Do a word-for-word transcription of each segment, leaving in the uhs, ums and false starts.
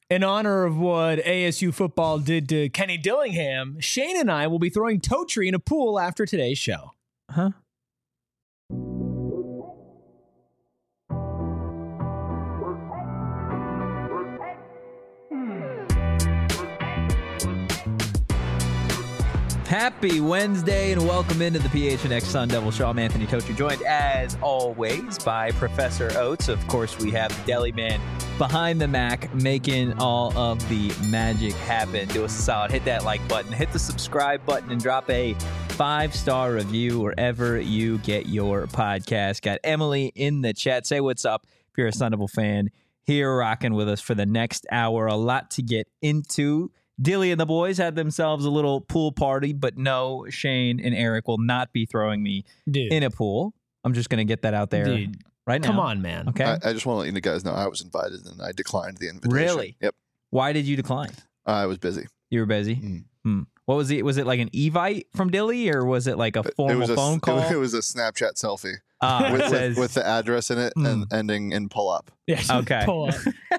In honor of what A S U football did to Kenny Dillingham, Shane and I will be throwing Totri in a pool after today's show. Huh? Happy Wednesday and welcome into the P H N X Sun Devil Show. I'm Anthony Totri, joined as always by Professor Oates. Of course, we have the Deli Man behind the Mac making all of the magic happen. Do us a solid. Hit that like button, hit the subscribe button, and drop a five-star review wherever you get your podcast. Got Emily in the chat. Say what's up if you're a Sun Devil fan here rocking with us for the next hour. A lot to get into. Dilly and the boys had themselves a little pool party, but no, Shane and Eric will not be throwing me Dude. in a pool. I'm just going to get that out there Dude. right now. Come on, man. Okay. I, I just want to let you guys know I was invited and I declined the invitation. Really? Yep. Why did you decline? Uh, I was busy. You were busy? Mm. Hmm. What was it? Was it like an Evite from Dilly or was it like a formal it was a, phone call? It was a Snapchat selfie uh, with, it says, with, with the address in it Mm. and ending in pull up. Yeah, Okay. pull up.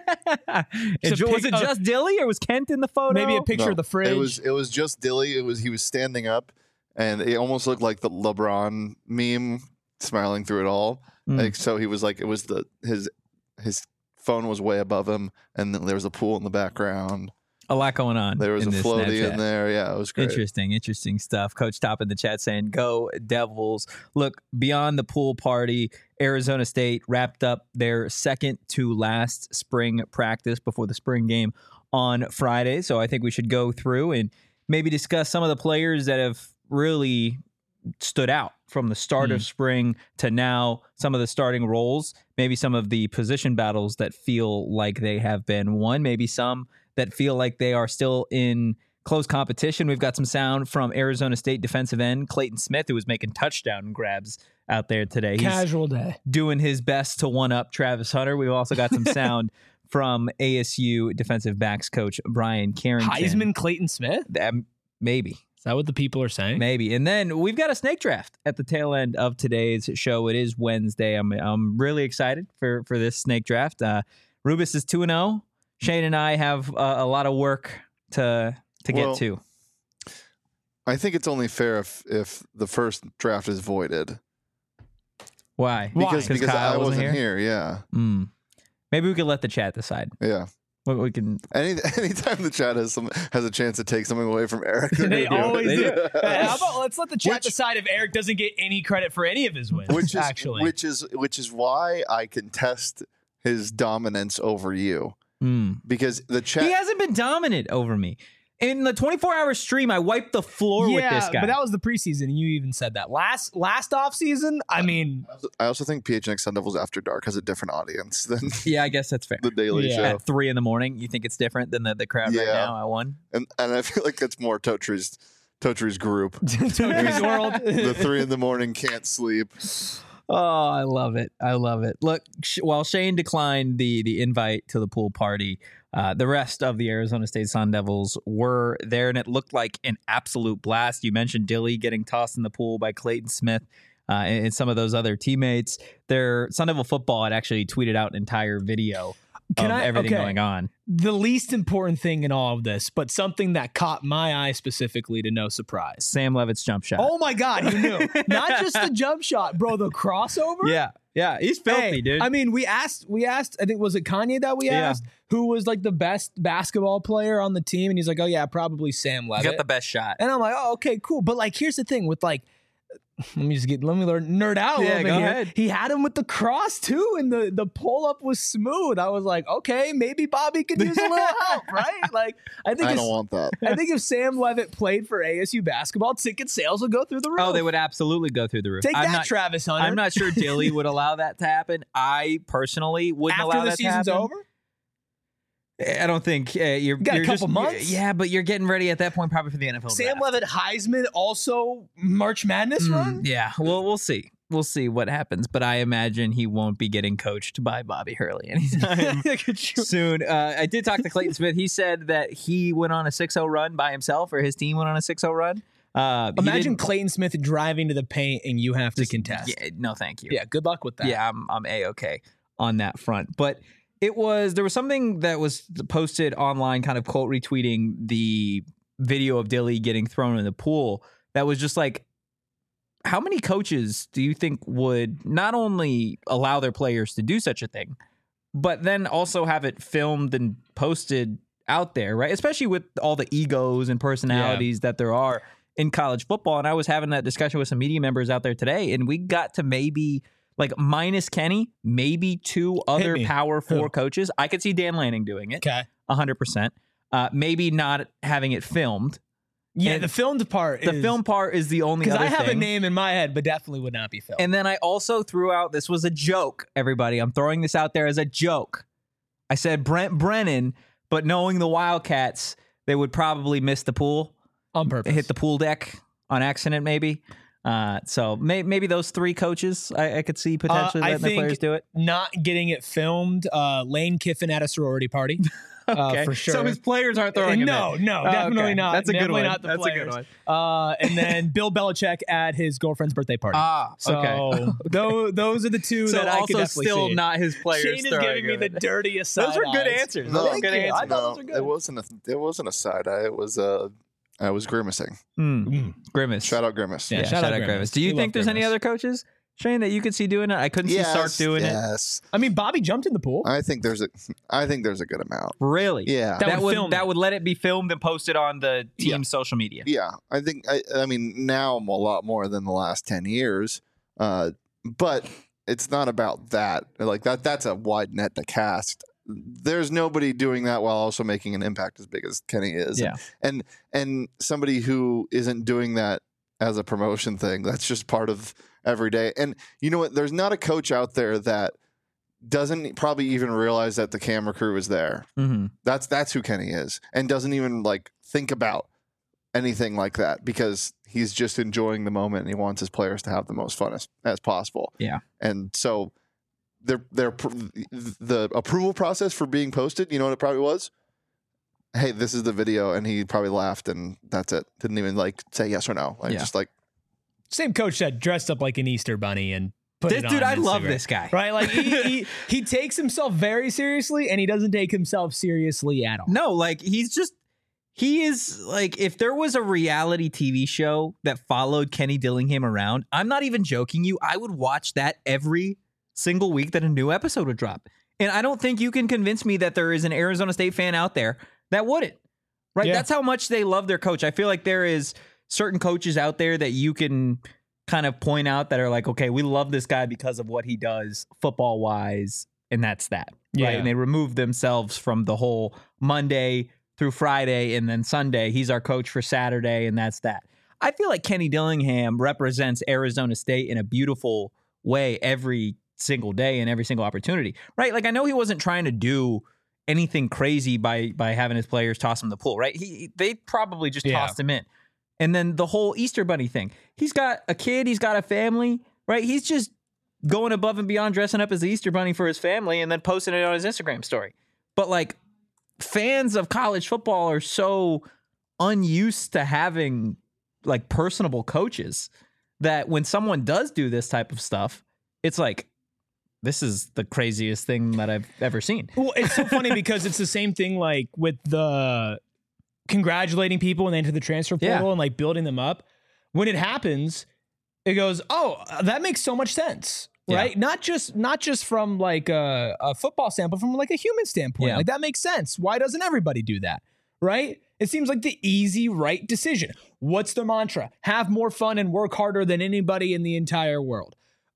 It- It's a was pic- it just Dilly or was Kent in the photo? Maybe a picture No, of the fridge. It was it was just Dilly. It was he was standing up and it almost looked like the LeBron meme, smiling through it all. Mm. Like so he was like it was the his his phone was way above him and then there was a pool in the background. A lot going on. There was in a this floaty Snapchat. in there. Yeah, it was great. Interesting, interesting stuff. Coach Top in the chat saying, go Devils. Look, beyond the pool party, Arizona State wrapped up their second to last spring practice before the spring game on Friday. So I think we should go through and maybe discuss some of the players that have really stood out from the start Mm. of spring to now, some of the starting roles, maybe some of the position battles that feel like they have been won, maybe some that feel like they are still in close competition. We've got some sound from Arizona State defensive end Clayton Smith, who was making touchdown grabs out there today. He's Casual day. doing his best to one-up Travis Hunter. We've also got some sound from A S U defensive backs coach Brian Carrington. Heisman Clayton Smith? Um, maybe. Is that what the people are saying? Maybe. And then we've got a snake draft at the tail end of today's show. It is Wednesday. I'm I'm really excited for, for this snake draft. Uh, Rubus is two and oh. Shane and I have uh, a lot of work to to Well, get to. I think it's only fair if if the first draft is voided. Why? Why? Because because Kyle I wasn't wasn't here? here. Yeah. Mm. Maybe we could let the chat decide. Yeah. We, we can. Any anytime the chat has some has a chance to take something away from Eric, they're They gonna do always it. do. Uh, How about let's let the chat Which- decide if Eric doesn't get any credit for any of his wins. which is actually, which is which is why I contest his dominance over you Mm. because the chat. He hasn't been dominant over me. In the twenty-four hour stream, I wiped the floor yeah, with this guy. but that was the preseason, and you even said that last last off season. I mean, I also think P H N X Sun Devils After Dark has a different audience than yeah, I guess that's fair. the Daily Yeah. Show, At three in the morning, you think it's different than the, the crowd right Yeah. now at one? and and I feel like that's more Totri's Totri's group. Totri's world. The three in the morning can't sleep. Oh, I love it. I love it. Look, sh- while Shane declined the the invite to the pool party, uh, the rest of the Arizona State Sun Devils were there, and it looked like an absolute blast. You mentioned Dilly getting tossed in the pool by Clayton Smith uh, and, and some of those other teammates. Their Sun Devil football had actually tweeted out an entire video Can of I- everything okay. going on. The least important thing in all of this, but something that caught my eye specifically to no surprise. Sam Levitt's jump shot. Oh my God, you knew. Not just the jump shot, bro, the crossover. yeah. Yeah. He's filthy, Hey, dude. I mean, we asked, we asked, I think, was it Kanye that we Yeah. asked who was like the best basketball player on the team? And he's like, oh, yeah, probably Sam He's Levitt. got the best shot. and I'm like, oh, okay, cool. But like, here's the thing with like, let me just get, let me learn, nerd out a Yeah, little bit go here. ahead. He had him with the cross too, and the, the pull up was smooth. I was like, okay, maybe Bobby could use a little help, right? Like, I think I if, don't want that. I think if Sam Levitt played for A S U basketball, ticket sales would go through the roof. Oh, they would absolutely go through the roof. Take I'm that, not, Travis Hunter. I'm not sure Dilly would allow that to happen. I personally wouldn't After allow the that to season's happen. over. I don't think uh, you're. got a you're couple just, months? Yeah, but you're getting ready at that point probably for the N F L Sam draft. Levitt, Heisman, also March Madness Mm, run. yeah, well, we'll see. We'll see what happens, but I imagine he won't be getting coached by Bobby Hurley anytime soon. Uh, I did talk to Clayton Smith. He said that he went on a six oh run by himself, or his team went on a six oh run. Uh, he Imagine didn't- Clayton Smith driving to the paint and you have to just- contest. Yeah, no, thank you. Yeah, good luck with that. Yeah, I'm I'm a okay on that front. But It was there was something that was posted online, kind of quote retweeting the video of Dilly getting thrown in the pool. That was just like, how many coaches do you think would not only allow their players to do such a thing, but then also have it filmed and posted out there, right? Especially with all the egos and personalities yeah. that there are in college football. And I was having that discussion with some media members out there today, and we got to maybe like minus Kenny, maybe two other Power Four Who? coaches. I could see Dan Lanning doing it. Okay. one hundred percent. Uh, maybe not having it filmed. Yeah, and the filmed part The is, film part is the only other Because I have thing. a name in my head, but definitely would not be filmed. And then I also threw out, this was a joke, everybody. I'm throwing this out there as a joke. I said Brent Brennan, but knowing the Wildcats, they would probably miss the pool. On purpose. Hit the pool deck on accident, maybe. Uh, so may, maybe those three coaches, I, I could see potentially uh, letting the players do it. Not getting it filmed, uh, Lane Kiffin at a sorority party. Okay. Uh, for sure. So his players aren't throwing no, him in. No, Oh, definitely okay. not. That's a good definitely one. Not the That's players. a good one. Uh, and then Bill Belichick at his girlfriend's birthday party. Ah, so okay. those, those are the two So that I could also definitely still see. not his players. Shane is throwing giving me him the in. dirtiest Those side were good eyes. answers. No, Those were good you. I answers. thought those were good. it wasn't a it wasn't a side eye. It was uh, I was grimacing. Mm. Mm. Grimace. Shout out Grimace. Yeah, Yeah, shout, shout out out Grimace. Grimace. Do you We think love there's any Grimace. other coaches, Shane, that you could see doing it? I couldn't Yes, see Sark doing it. yes. I mean, Bobby jumped in the pool. I think there's a I think there's a good amount. Really? Yeah. That That would would film that it. would let it be filmed and posted on the team's Yeah. social media. Yeah, I think I, I mean now I'm a lot more than the last ten years, uh, but it's not about that. Like that, that's a wide net to cast. There's nobody doing that while also making an impact as big as Kenny is. Yeah. and and somebody who isn't doing that as a promotion thing. That's just part of every day. And you know what? There's not a coach out there that doesn't probably even realize that the camera crew is there. Mm-hmm. That's that's who Kenny is, and doesn't even like think about anything like that because he's just enjoying the moment and he wants his players to have the most fun as, as possible. Yeah. And so their their the approval process for being posted, you know what it probably was? Hey, this is the video, and he probably laughed and that's it. Didn't even like say yes or no. Like Yeah. just like Same coach that dressed up like an Easter bunny and put This it dude, on I love Instagram. this guy. Right? Like he, he he takes himself very seriously and he doesn't take himself seriously at all. No, like he's just he is like if there was a reality T V show that followed Kenny Dillingham around, I'm not even joking you, I would watch that every single week that a new episode would drop. And I don't think you can convince me that there is an Arizona State fan out there that wouldn't. Right? Yeah. That's how much they love their coach. I feel like there is certain coaches out there that you can kind of point out that are like, okay, we love this guy because of what he does football wise, and that's that. Yeah. Right. And they remove themselves from the whole Monday through Friday and then Sunday. He's our coach for Saturday, and that's that. I feel like Kenny Dillingham represents Arizona State in a beautiful way every single day and every single opportunity. Right. Like I know he wasn't trying to do anything crazy by by having his players toss him in the pool, right? He they probably just Yeah. tossed him in. And then the whole Easter Bunny thing. He's got a kid, he's got a family, right? He's just going above and beyond dressing up as the Easter Bunny for his family and then posting it on his Instagram story. But like fans of college football are so unused to having like personable coaches that when someone does do this type of stuff, it's like, this is the craziest thing that I've ever seen. Well, it's so funny because it's the same thing like with the congratulating people when they enter the transfer portal Yeah. and like building them up. When it happens, it goes, oh, that makes so much sense. Right. Yeah. Not just not just from like a, a football standpoint, from like a human standpoint. Yeah. Like that makes sense. Why doesn't everybody do that? Right. It seems like the easy, right decision. What's the mantra? Have more fun and work harder than anybody in the entire world.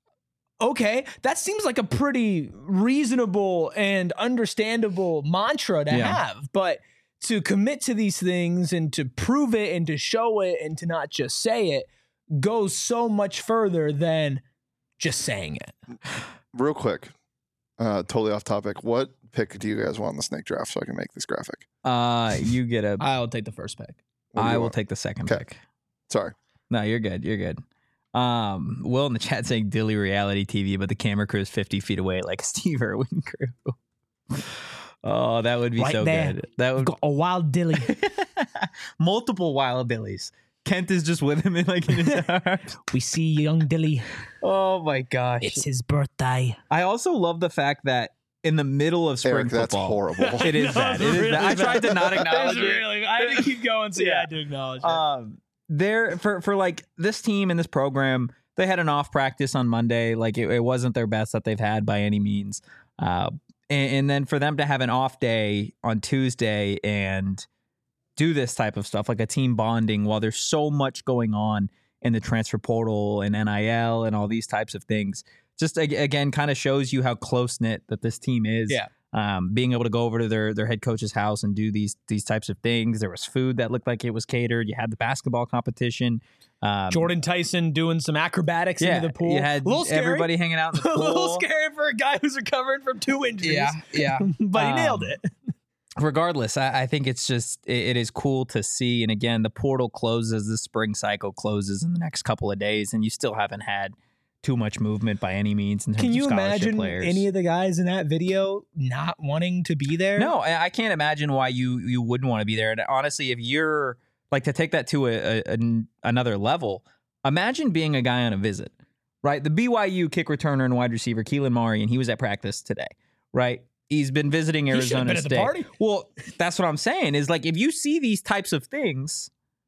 Okay, that seems like a pretty reasonable and understandable mantra to Yeah. have, but to commit to these things and to prove it and to show it and to not just say it goes so much further than just saying it. real quick, uh, totally off topic. What pick do you guys want in the snake draft so I can make this graphic? Uh, you get a. I'll take the first pick. What do I you will want? take the second Okay. pick. Sorry. No, you're good. You're good. Um, Will in the chat saying Dilly reality T V, but the camera crew is fifty feet away, like a Steve Irwin crew. Oh, that would be Right so there. good. That would Got a wild dilly. multiple wild Dillies. Kent is just with him in like in his arms. We see young Dilly. Oh my gosh! It's his birthday. I also love the fact that in the middle of spring Eric, that's football. horrible. It is No, bad. it's It is really bad. I tried to not acknowledge It's it. really, I had to keep going, so yeah, Yeah. I had to acknowledge it. Um, there for for like this team and this program, they had an off practice on Monday. Like it, it wasn't their best that they've had by any means. Uh, and, and then for them to have an off day on Tuesday and do this type of stuff, like a team bonding, while there's so much going on in the transfer portal and N I L and all these types of things, just ag- again kind of shows you how close knit that this team is. Yeah. Um, being able to go over to their their head coach's house and do these these types of things. There was food that looked like it was catered. You had the basketball competition. Um, Jordan Tyson doing some acrobatics yeah, into the pool. you had a little scary. everybody hanging out in the a pool. little scary for a guy who's recovering from two injuries. Yeah, yeah. but he Um, nailed it. Regardless, I, I think it's just it, it is cool to see. And again, the portal closes, the spring cycle closes in the next couple of days, and you still haven't had too much movement by any means in terms Can you of scholarship imagine players. any of the guys in that video not wanting to be there? No, I I can't imagine why you you wouldn't want to be there. And honestly, if you're like to take that to a, a, an- another level, imagine being a guy on a visit, right? The B Y U kick returner and wide receiver Keelan Murray, and he was at practice today, right? He's been visiting He should have Arizona been at the State. party. Well, that's what I'm saying. Is like if you see these types of things,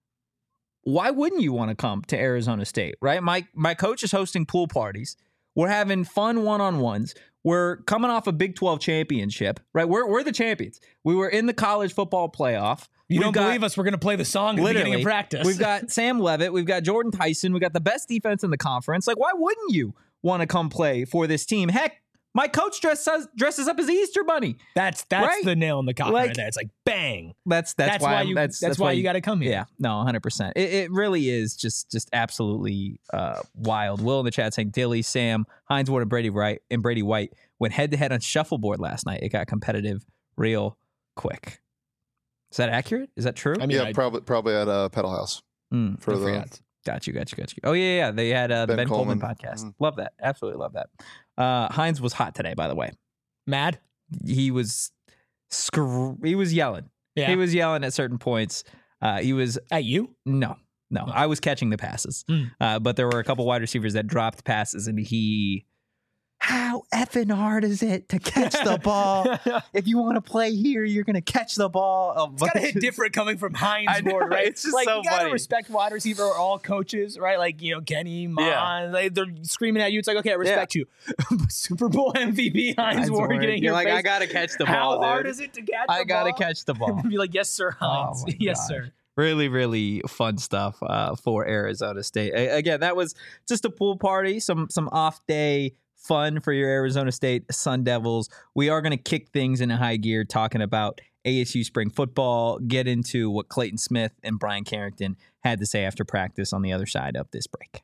why wouldn't you want to come to Arizona State, right? My my coach is hosting pool parties. We're having fun one-on-ones. We're coming off a Big twelve championship, right? We're we're the champions. We were in the college football playoff. You We've don't got- believe us? We're going to play the song at the beginning of practice. We've got Sam Levitt. We've got Jordan Tyson. We've got the best defense in the conference. Like, why wouldn't you want to come play for this team? Heck, my coach dresses dresses up as the Easter Bunny. that's that's right? the nail in the coffin Like- right there. It's like bang. That's that's, That's, why, why I'm- you. that's That's, why you got to come here. Yeah, no, one hundred percent. It, it really is just just absolutely uh, wild. Will in the chat saying Dilly, Sam, Hines Ward, and Brady Wright and Brady White went head to head on shuffleboard last night. It got competitive real quick. Is that accurate? Is that true? I mean, yeah, I, probably probably at a pedal house Mm, for I the forgot. got you, got you, got you. Oh yeah, yeah. They had uh, the Ben, Ben Coleman, Coleman. podcast. Mhm. Love that. Absolutely love that. Uh, Hines was hot today, by the way. Mad. He was scr- he was yelling. Yeah. He was yelling at certain points. Uh, he was At you? no, no. I was catching the passes, Mm. uh, but there were a couple wide receivers that dropped passes, and he. How effing hard is it to catch the ball? If you want to play here, you're gonna catch the ball. A It's gotta bunch hit of- different coming from Hines I know, Ward, right? it's just like so you gotta funny. respect wide receiver or all coaches, right? Like you know Kenny, Mon, Yeah. like, they're screaming at you. It's like okay, I respect you. But Super Bowl M V P Hines, Hines Ward Ward, getting you're your like, face. I gotta catch the How ball. hard dude. is it to catch? I the gotta ball? catch the ball. Be like, yes, sir, Hines. Oh, my yes, gosh. sir. Really, really fun stuff uh, for Arizona State. A- again, that was just a pool party, some some off day fun for your Arizona State Sun Devils. We are going to kick things into high gear, talking about A S U spring football, get into what Clayton Smith and Brian Carrington had to say after practice on the other side of this break.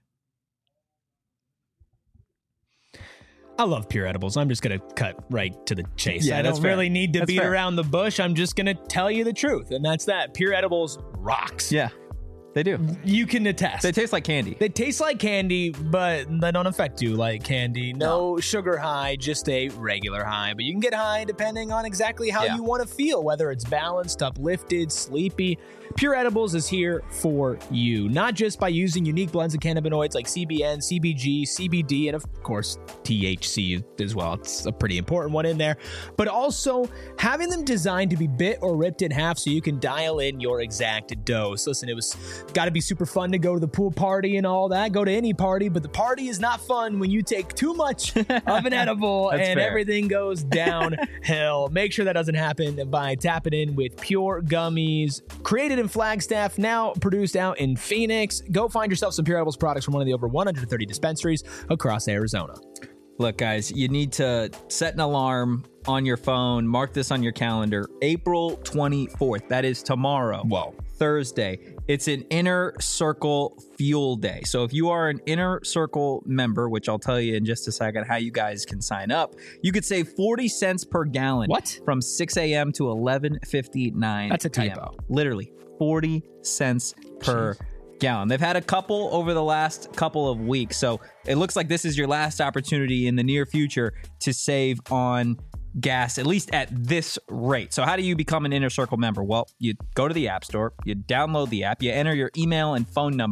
I love pure edibles. I'm just gonna cut right to the chase. Yeah, I that's don't fair. really need to That's beat fair. around the bush. I'm just gonna tell you the truth, and that's that. Pure edibles rocks. Yeah, they do. You can attest. They taste like candy. They taste like candy, but they don't affect you like candy. No, sugar high, just a regular high. But you can get high depending on exactly how Yeah. you want to feel, whether it's balanced, uplifted, sleepy. Pure Edibles is here for you, not just by using unique blends of cannabinoids like C B N, C B G, C B D, and of course, T H C as well. It's a pretty important one in there, but also having them designed to be bit or ripped in half so you can dial in your exact dose. Listen, it was got to be super fun to go to the pool party and all that, go to any party, but the party is not fun when you take too much of an edible That's and fair. everything goes downhill. Make sure that doesn't happen by tapping in with Pure Gummies, created in Flagstaff, now produced out in Phoenix. Go find yourself some Pure Edibles products from one of the over one hundred thirty dispensaries across Arizona. Look, guys, you need to set an alarm on your phone. Mark this on your calendar. April twenty-fourth. That is tomorrow. Whoa. Thursday. It's an Inner Circle Fuel Day. So if you are an Inner Circle member, which I'll tell you in just a second how you guys can sign up, you could save forty cents per gallon. What? From six a.m. to eleven fifty-nine. That's a p.m. typo. Literally forty cents per gallon. They've had a couple over the last couple of weeks. So it looks like this is your last opportunity in the near future to save on gas, at least at this rate. So how do you become an Inner Circle member? Well, you go to the App Store, you download the app, you enter your email and phone number,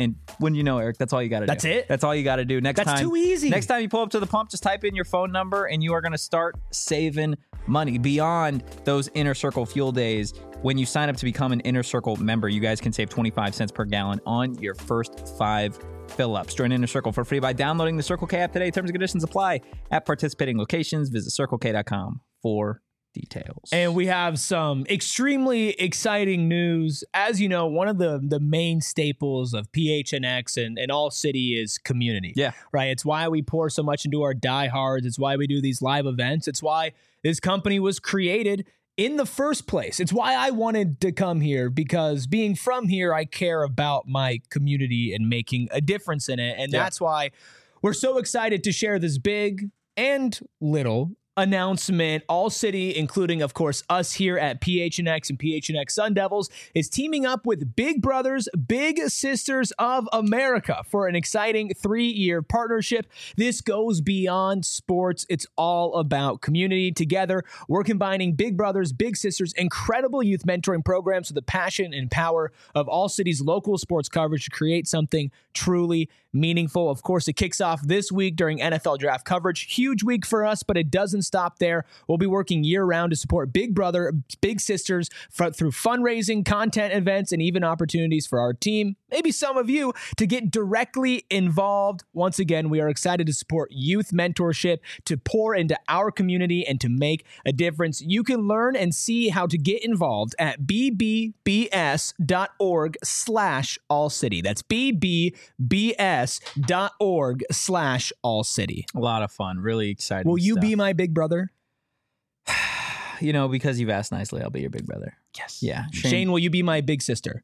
And when you know, Eric, that's all you got to do. That's it? That's all you got to do. Next That's time, too easy. Next time you pull up to the pump, just type in your phone number and you are going to start saving money beyond those Inner Circle fuel days. When you sign up to become an Inner Circle member, you guys can save twenty-five cents per gallon on your first five fill-ups. Join Inner Circle for free by downloading the Circle K app today. Terms and conditions apply at participating locations. Visit circle k dot com for details. And we have some extremely exciting news. As you know, one of the, the main staples of P H N X and, and All City is community. Yeah. Right? It's why we pour so much into our diehards. It's why we do these live events. It's why this company was created in the first place. It's why I wanted to come here, because being from here, I care about my community and making a difference in it. And Yeah. that's why we're so excited to share this big and little announcement. All City, including, of course, us here at P H N X and P H N X Sun Devils, is teaming up with Big Brothers Big Sisters of America for an exciting three-year partnership. This goes beyond sports. It's all about community. Together, we're combining Big Brothers Big Sisters' incredible youth mentoring programs with the passion and power of All City's local sports coverage to create something truly meaningful. Of course, it kicks off this week during N F L draft coverage. Huge week for us, but it doesn't stop there. We'll be working year-round to support Big Brother, Big Sisters for, through fundraising, content events, and even opportunities for our team, maybe some of you, to get directly involved. Once again, we are excited to support youth mentorship, to pour into our community, and to make a difference. You can learn and see how to get involved at b b b s dot org slash all city. That's b b b s dot org slash all city. A lot of fun. Really exciting. Will you stuff. be my big brother? You know, because you've asked nicely, I'll be your big brother. Yes. Yeah. Shane, will you be my big sister?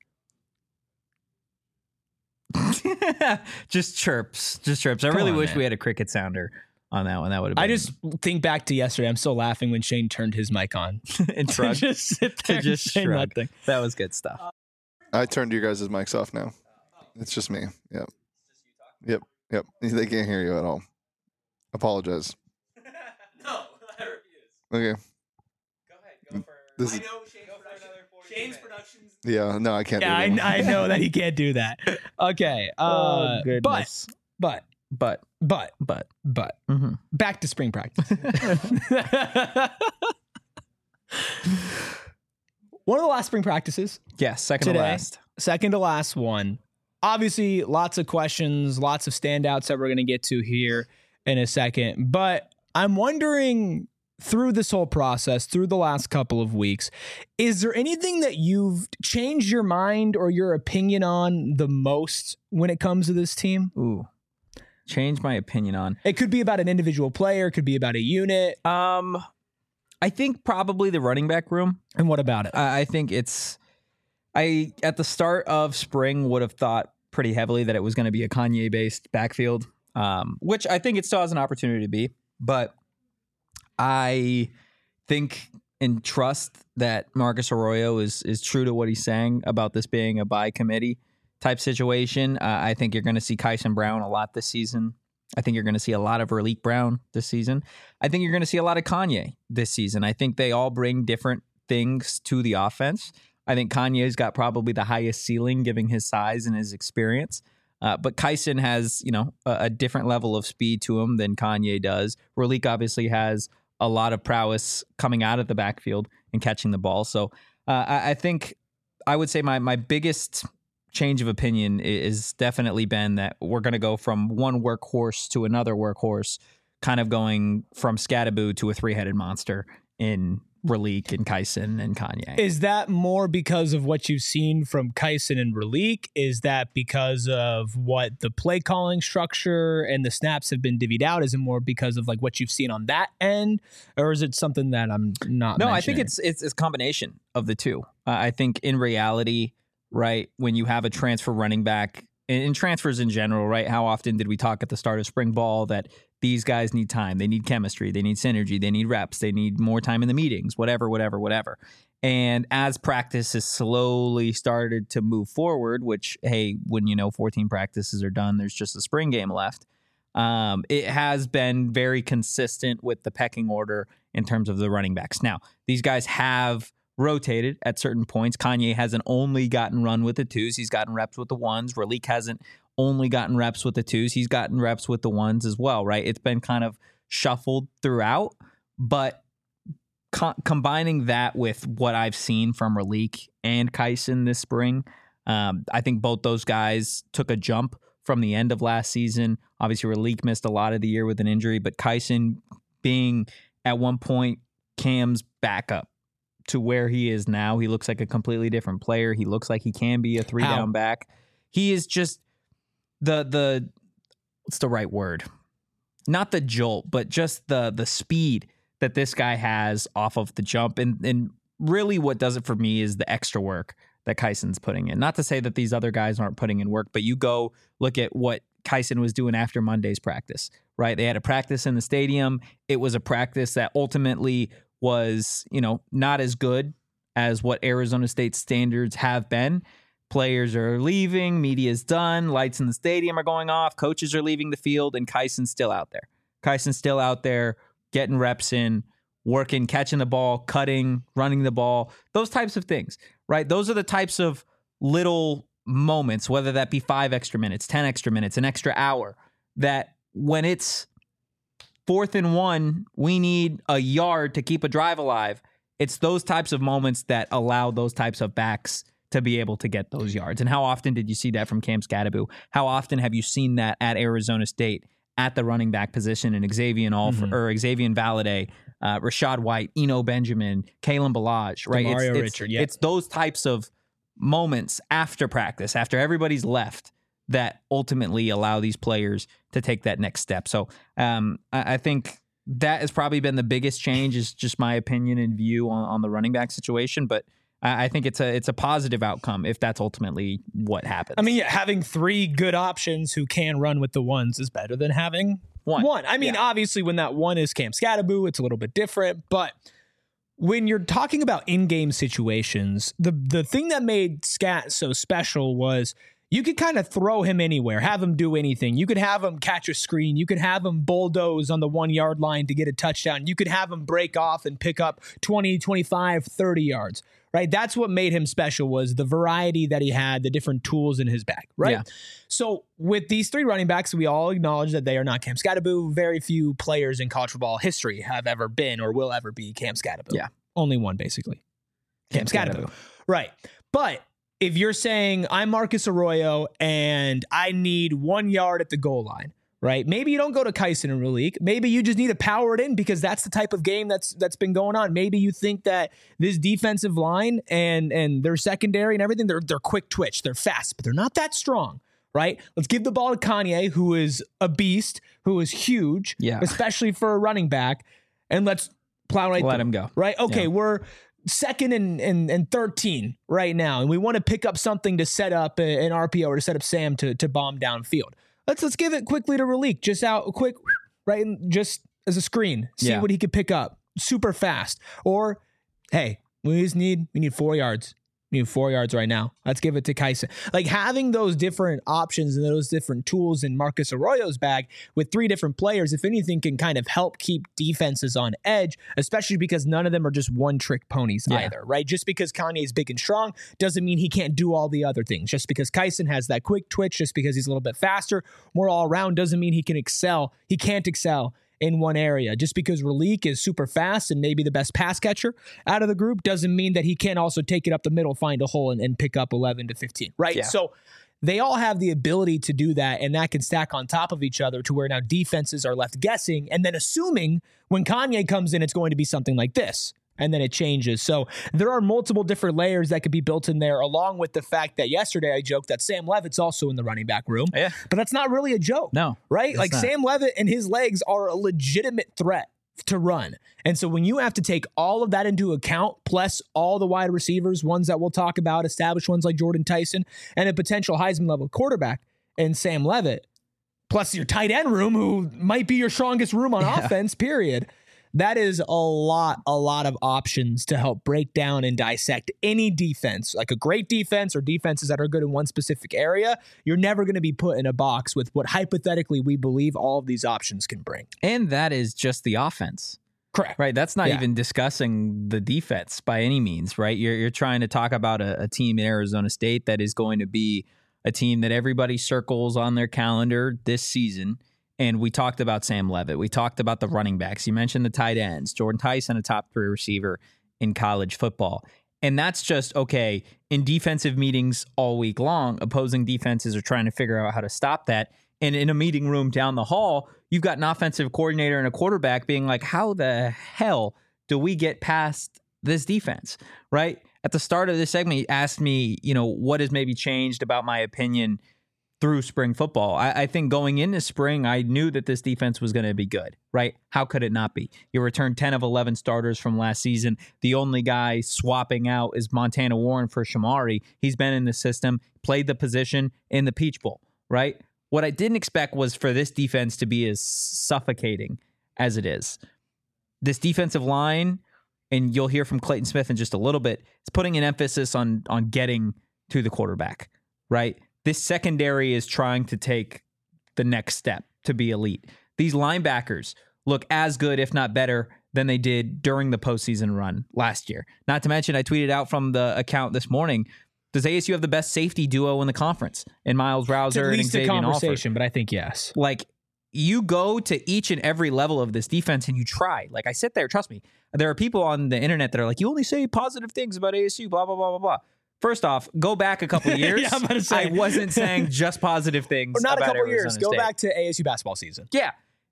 Just chirps. Just chirps. I Come really on, wish man. we had a cricket sounder on that one. That would have been I just think back to yesterday. I'm still laughing when Shane turned his mic on. and To shrug. just sit To there just and say shrug. nothing. That was good stuff. I turned your guys' mics off now. It's just me. Yep. Yep. Yep. They can't hear you at all. Apologize. No, I refuse. Okay. Go ahead. Go for This I is- know Shane's production. Shane's productions. Yeah. No, I can't. Yeah, do it I, anymore. I know that he can't do that. Okay. Uh, oh, but, goodness. but, But, but, but. but, Mm-hmm. back to spring practice. One of the last spring practices, Yeah, second Today. to last. second to last one. Obviously, lots of questions, lots of standouts that we're going to get to here in a second. But I'm wondering, through this whole process, through the last couple of weeks, is there anything that you've changed your mind or your opinion on the most when it comes to this team? Ooh. Change my opinion on. It could be about an individual player, it could be about a unit. Um, I think probably the running back room. And what about it? I I think it's. I at the start of spring would have thought pretty heavily that it was going to be a Kanye based backfield, um, which I think it still has an opportunity to be. But I think and trust that Marcus Arroyo is is true to what he's saying about this being a by committee type situation. Uh, I think you're going to see Kyson Brown a lot this season. I think you're going to see a lot of Raleek Brown this season. I think you're going to see a lot of Kanye this season. I think they all bring different things to the offense. I think Kanye's got probably the highest ceiling given his size and his experience. Uh, but Kyson has, you know, a, a different level of speed to him than Kanye does. Raleek obviously has a lot of prowess coming out of the backfield and catching the ball. So uh, I, I think I would say my my biggest change of opinion is definitely been that we're going to go from one workhorse to another workhorse, kind of going from Scattaboo to a three-headed monster in Raleek and Kyson and Kanye. Is that more because of what you've seen from Kyson and Raleek? Is that because of what the play calling structure and the snaps have been divvied out? Is it more because of like what you've seen on that end? Or is it something that I'm not No, I think mentioning? it's, it's it's a combination of the two. Uh, I think in reality, right, when you have a transfer running back, and, and transfers in general, right, how often did we talk at the start of spring ball that these guys need time, they need chemistry, they need synergy, they need reps, they need more time in the meetings, whatever, whatever, whatever. And as practice has slowly started to move forward, which, hey, when you know fourteen practices are done, there's just a spring game left. Um, it has been very consistent with the pecking order in terms of the running backs. Now, these guys have rotated at certain points. Kanye hasn't only gotten run with the twos. He's gotten reps with the ones. Raleek hasn't only gotten reps with the twos. He's gotten reps with the ones as well, right? It's been kind of shuffled throughout, but co- combining that with what I've seen from Raleek and Kyson this spring, um, I think both those guys took a jump from the end of last season. Obviously, Raleek missed a lot of the year with an injury, but Kyson being at one point Cam's backup to where he is now, he looks like a completely different player. He looks like he can be a three How? down back. He is just the the what's the right word? Not the jolt, but just the the speed that this guy has off of the jump. And and really what does it for me is the extra work that Kyson's putting in. Not to say that these other guys aren't putting in work, but you go look at what Kyson was doing after Monday's practice, right? They had a practice in the stadium. It was a practice that ultimately was, you know, not as good as what Arizona State standards have been. Players are leaving, media's done, lights in the stadium are going off, coaches are leaving the field, and Kyson's still out there. Kyson's still out there getting reps in, working, catching the ball, cutting, running the ball, those types of things, right? Those are the types of little moments, whether that be five extra minutes, ten extra minutes, an extra hour, that when it's fourth and one, we need a yard to keep a drive alive. It's those types of moments that allow those types of backs to be able to get those yards. And how often did you see that from Cam Scadaboo? How often have you seen that at Arizona State at the running back position in Xavier Alford, mm-hmm. or Xavier Valladay, uh, Rashad White, Eno Benjamin, Kalen Balaj, right? Mario it's, Richard, it's, yeah. It's those types of moments after practice, after everybody's left, that ultimately allow these players to take that next step. So um, I, I think that has probably been the biggest change, is just my opinion and view on, on the running back situation. But I, I think it's a it's a positive outcome if that's ultimately what happens. I mean, yeah, having three good options who can run with the ones is better than having one. one. I mean, Yeah. obviously, when that one is Cam Scadaboo, it's a little bit different. But when you're talking about in-game situations, the the thing that made Scat so special was you could kind of throw him anywhere, have him do anything. You could have him catch a screen. You could have him bulldoze on the one-yard line to get a touchdown. You could have him break off and pick up twenty, twenty-five, thirty yards, right? That's what made him special, was the variety that he had, the different tools in his bag, right? Yeah. So with these three running backs, we all acknowledge that they are not Cam Scadaboo. Very few players in college football history have ever been or will ever be Cam Scadaboo. Yeah. Only one, basically. Cam, Cam Scadaboo. Scadaboo. Right. But if you're saying I'm Marcus Arroyo and I need one yard at the goal line, right? Maybe you don't go to Kyson and Raleek. Maybe you just need to power it in because that's the type of game that's that's been going on. Maybe you think that this defensive line and and their secondary and everything, they're they're quick twitch, they're fast, but they're not that strong, right? Let's give the ball to Kanye, who is a beast, who is huge, Yeah. especially for a running back, and let's plow right Let through. him go. Right? Okay, Yeah. we're second and, and, and thirteen right now, and we want to pick up something to set up an R P O or to set up Sam to, to bomb downfield. Let's let's give it quickly to Raleek, just out quick, right, and just as a screen, see Yeah. what he could pick up super fast. Or, hey, we just need we need four yards. We need four yards right now. Let's give it to Kyson. Like, having those different options and those different tools in Marcus Arroyo's bag with three different players, if anything, can kind of help keep defenses on edge, especially because none of them are just one-trick ponies Yeah. either, right? Just because Kanye is big and strong doesn't mean he can't do all the other things. Just because Kyson has that quick twitch, just because he's a little bit faster, more all-around, doesn't mean he can excel. He can't excel in one area. Just because Raleek is super fast and maybe the best pass catcher out of the group doesn't mean that he can't also take it up the middle, find a hole, and, and pick up eleven to fifteen, right? Yeah. So they all have the ability to do that, and that can stack on top of each other to where now defenses are left guessing and then assuming when Kanye comes in, it's going to be something like this. And then it changes. So there are multiple different layers that could be built in there, along with the fact that yesterday I joked that Sam Levitt's also in the running back room. Yeah. But that's not really a joke. No, Right? it's Like not. Sam Levitt and his legs are a legitimate threat to run. And so when you have to take all of that into account, plus all the wide receivers, ones that we'll talk about, established ones like Jordan Tyson, and a potential Heisman level quarterback and Sam Levitt, plus your tight end room, who might be your strongest room on Yeah. offense, period. That is a lot, a lot of options to help break down and dissect any defense, like a great defense or defenses that are good in one specific area. You're never going to be put in a box with what hypothetically we believe all of these options can bring. And that is just the offense, Correct. Right. That's not Yeah. even discussing the defense by any means, right? You're you're trying to talk about a, a team in Arizona State that is going to be a team that everybody circles on their calendar this season. And we talked about Sam Levitt. We talked about the running backs. You mentioned the tight ends. Jordan Tyson, a top three receiver in college football. And that's just, okay, in defensive meetings all week long, opposing defenses are trying to figure out how to stop that. And in a meeting room down the hall, you've got an offensive coordinator and a quarterback being like, how the hell do we get past this defense, right? At the start of this segment, you asked me, you know, what has maybe changed about my opinion through spring football. I, I think going into spring, I knew that this defense was going to be good, right? How could it not be? You returned ten of eleven starters from last season. The only guy swapping out is Montana Warren for Shamari. He's been in the system, played the position in the Peach Bowl, right? What I didn't expect was for this defense to be as suffocating as it is. This defensive line, and you'll hear from Clayton Smith in just a little bit, is putting an emphasis on on getting to the quarterback, right? This secondary is trying to take the next step to be elite. These linebackers look as good, if not better, than they did during the postseason run last year. Not to mention, I tweeted out from the account this morning, does A S U have the best safety duo in the conference in Miles Rouser At and least a Xavier Alford? conversation, but I think yes. Like, you go to each and every level of this defense and you try. Like, I sit there, trust me, there are people on the internet that are like, you only say positive things about A S U, blah, blah, blah, blah, blah. First off, go back a couple of years. Yeah, I'm about to say. I wasn't saying just positive things Or not a about couple Arizona years. Go State. back to A S U basketball season. Yeah.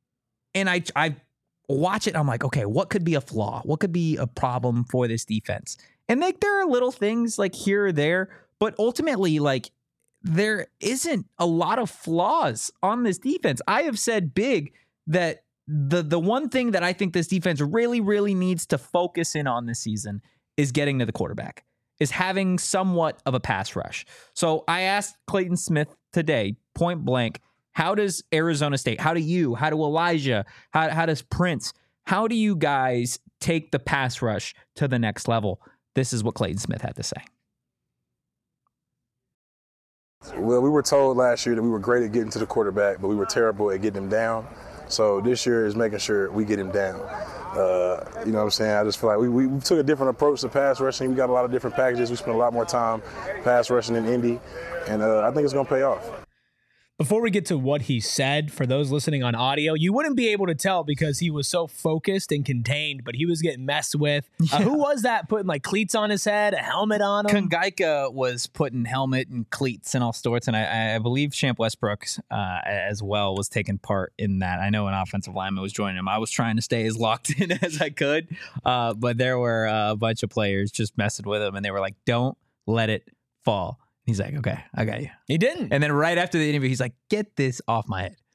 And I I watch it. I'm like, okay, what could be a flaw? What could be a problem for this defense? And like, there are little things like here or there, but ultimately, like, there isn't a lot of flaws on this defense. I have said big that the the one thing that I think this defense really, really needs to focus in on this season is getting to the quarterback, is having somewhat of a pass rush. So I asked Clayton Smith today, point blank, how does Arizona State, how do you, how do Elijah, how, how does Prince, how do you guys take the pass rush to the next level? This is what Clayton Smith had to say. Well, we were told last year that we were great at getting to the quarterback, but we were terrible at getting him down. So this year is making sure we get him down. Uh, you know what I'm saying? I just feel like we, we, we took a different approach to pass rushing. We got a lot of different packages. We spent a lot more time pass rushing in Indy, and uh, I think it's going to pay off. Before we get to what he said, for those listening on audio, you wouldn't be able to tell because he was so focused and contained, but he was getting messed with. Uh, who was that putting like cleats on his head, a helmet on him? Kongaika was putting helmet and cleats and all sorts, and I, I believe Champ Westbrook uh, as well was taking part in that. I know an offensive lineman was joining him. I was trying to stay as locked in as I could, uh, but there were uh, a bunch of players just messing with him, and they were like, don't let it fall. He's like, okay, I got you. He didn't. And then right after the interview, he's like, get this off my head.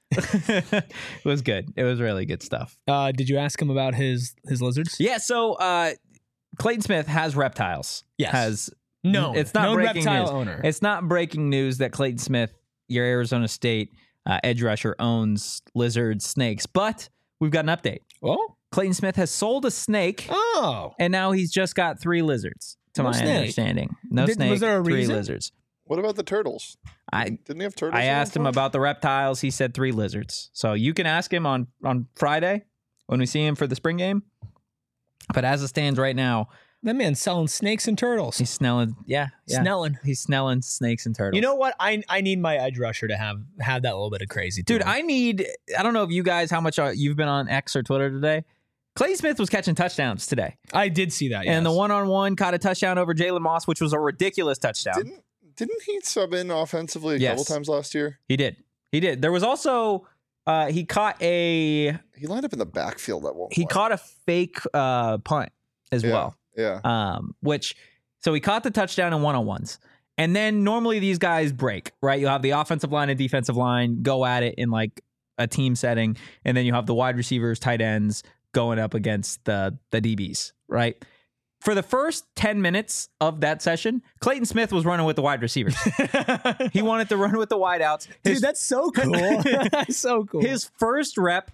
It was good. It was really good stuff. Uh, did you ask him about his his lizards? Yeah, so uh, Clayton Smith has reptiles. Yes. Has No. It's not known breaking reptile news. owner. It's not breaking news that Clayton Smith, your Arizona State uh, edge rusher, owns lizards, snakes. But we've got an update. Oh. Clayton Smith has sold a snake, Oh. and now he's just got three lizards, to No my snake. understanding. No Did- snake, was there a three reason? lizards. What about the turtles? I Didn't he have turtles? I at one asked him point? about the reptiles. He said three lizards. So you can ask him on, on Friday when we see him for the spring game. But as it stands right now, That man's selling snakes and turtles. he's snelling. Yeah, yeah. Snelling. He's snelling snakes and turtles. You know what? I I need my edge rusher to have have that little bit of crazy. to dude, him. I need. I don't know if you guys how much uh, you've been on X or Twitter today. Clay Smith was catching touchdowns today, I did see that. and the yes. one on one caught a touchdown over Jalen Moss, which was a ridiculous touchdown. Didn't didn't he sub in offensively a Yes. couple times last year? He did. He did. There was also uh, he caught a He lined up in the backfield at one he point. caught a fake uh, punt as Yeah. well. Yeah. Um, which so he caught the touchdown in one on ones, and then normally these guys break, right? You'll have the offensive line and defensive line go at it in like a team setting, and then you have the wide receivers, tight ends going up against the the D Bs, right? For the first ten minutes of that session, Clayton Smith was running with the wide receivers. He wanted to run with the wideouts. Dude, His, that's so cool. That's so cool. his first rep,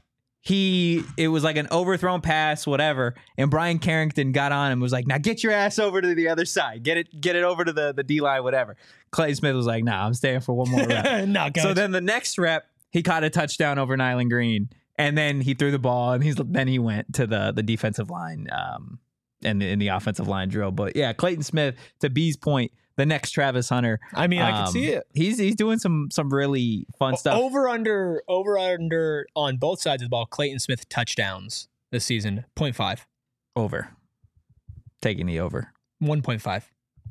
he it was like an overthrown pass, whatever. And Brian Carrington got on and was like, "Now get your ass over to the other side. Get it, get it over to the the D line, whatever." Clayton Smith was like, "Nah, I'm staying for one more rep." no, So then the next rep, he caught a touchdown over Nyland Green. And then he threw the ball, and he's then he went to the the defensive line um, and in the offensive line drill. But yeah, Clayton Smith, to B's point, the next Travis Hunter. I mean, I um, can see it. He's he's doing some some really fun stuff. Over under over under on both sides of the ball. Clayton Smith touchdowns this season, zero point five. Over. Taking the over. one point five.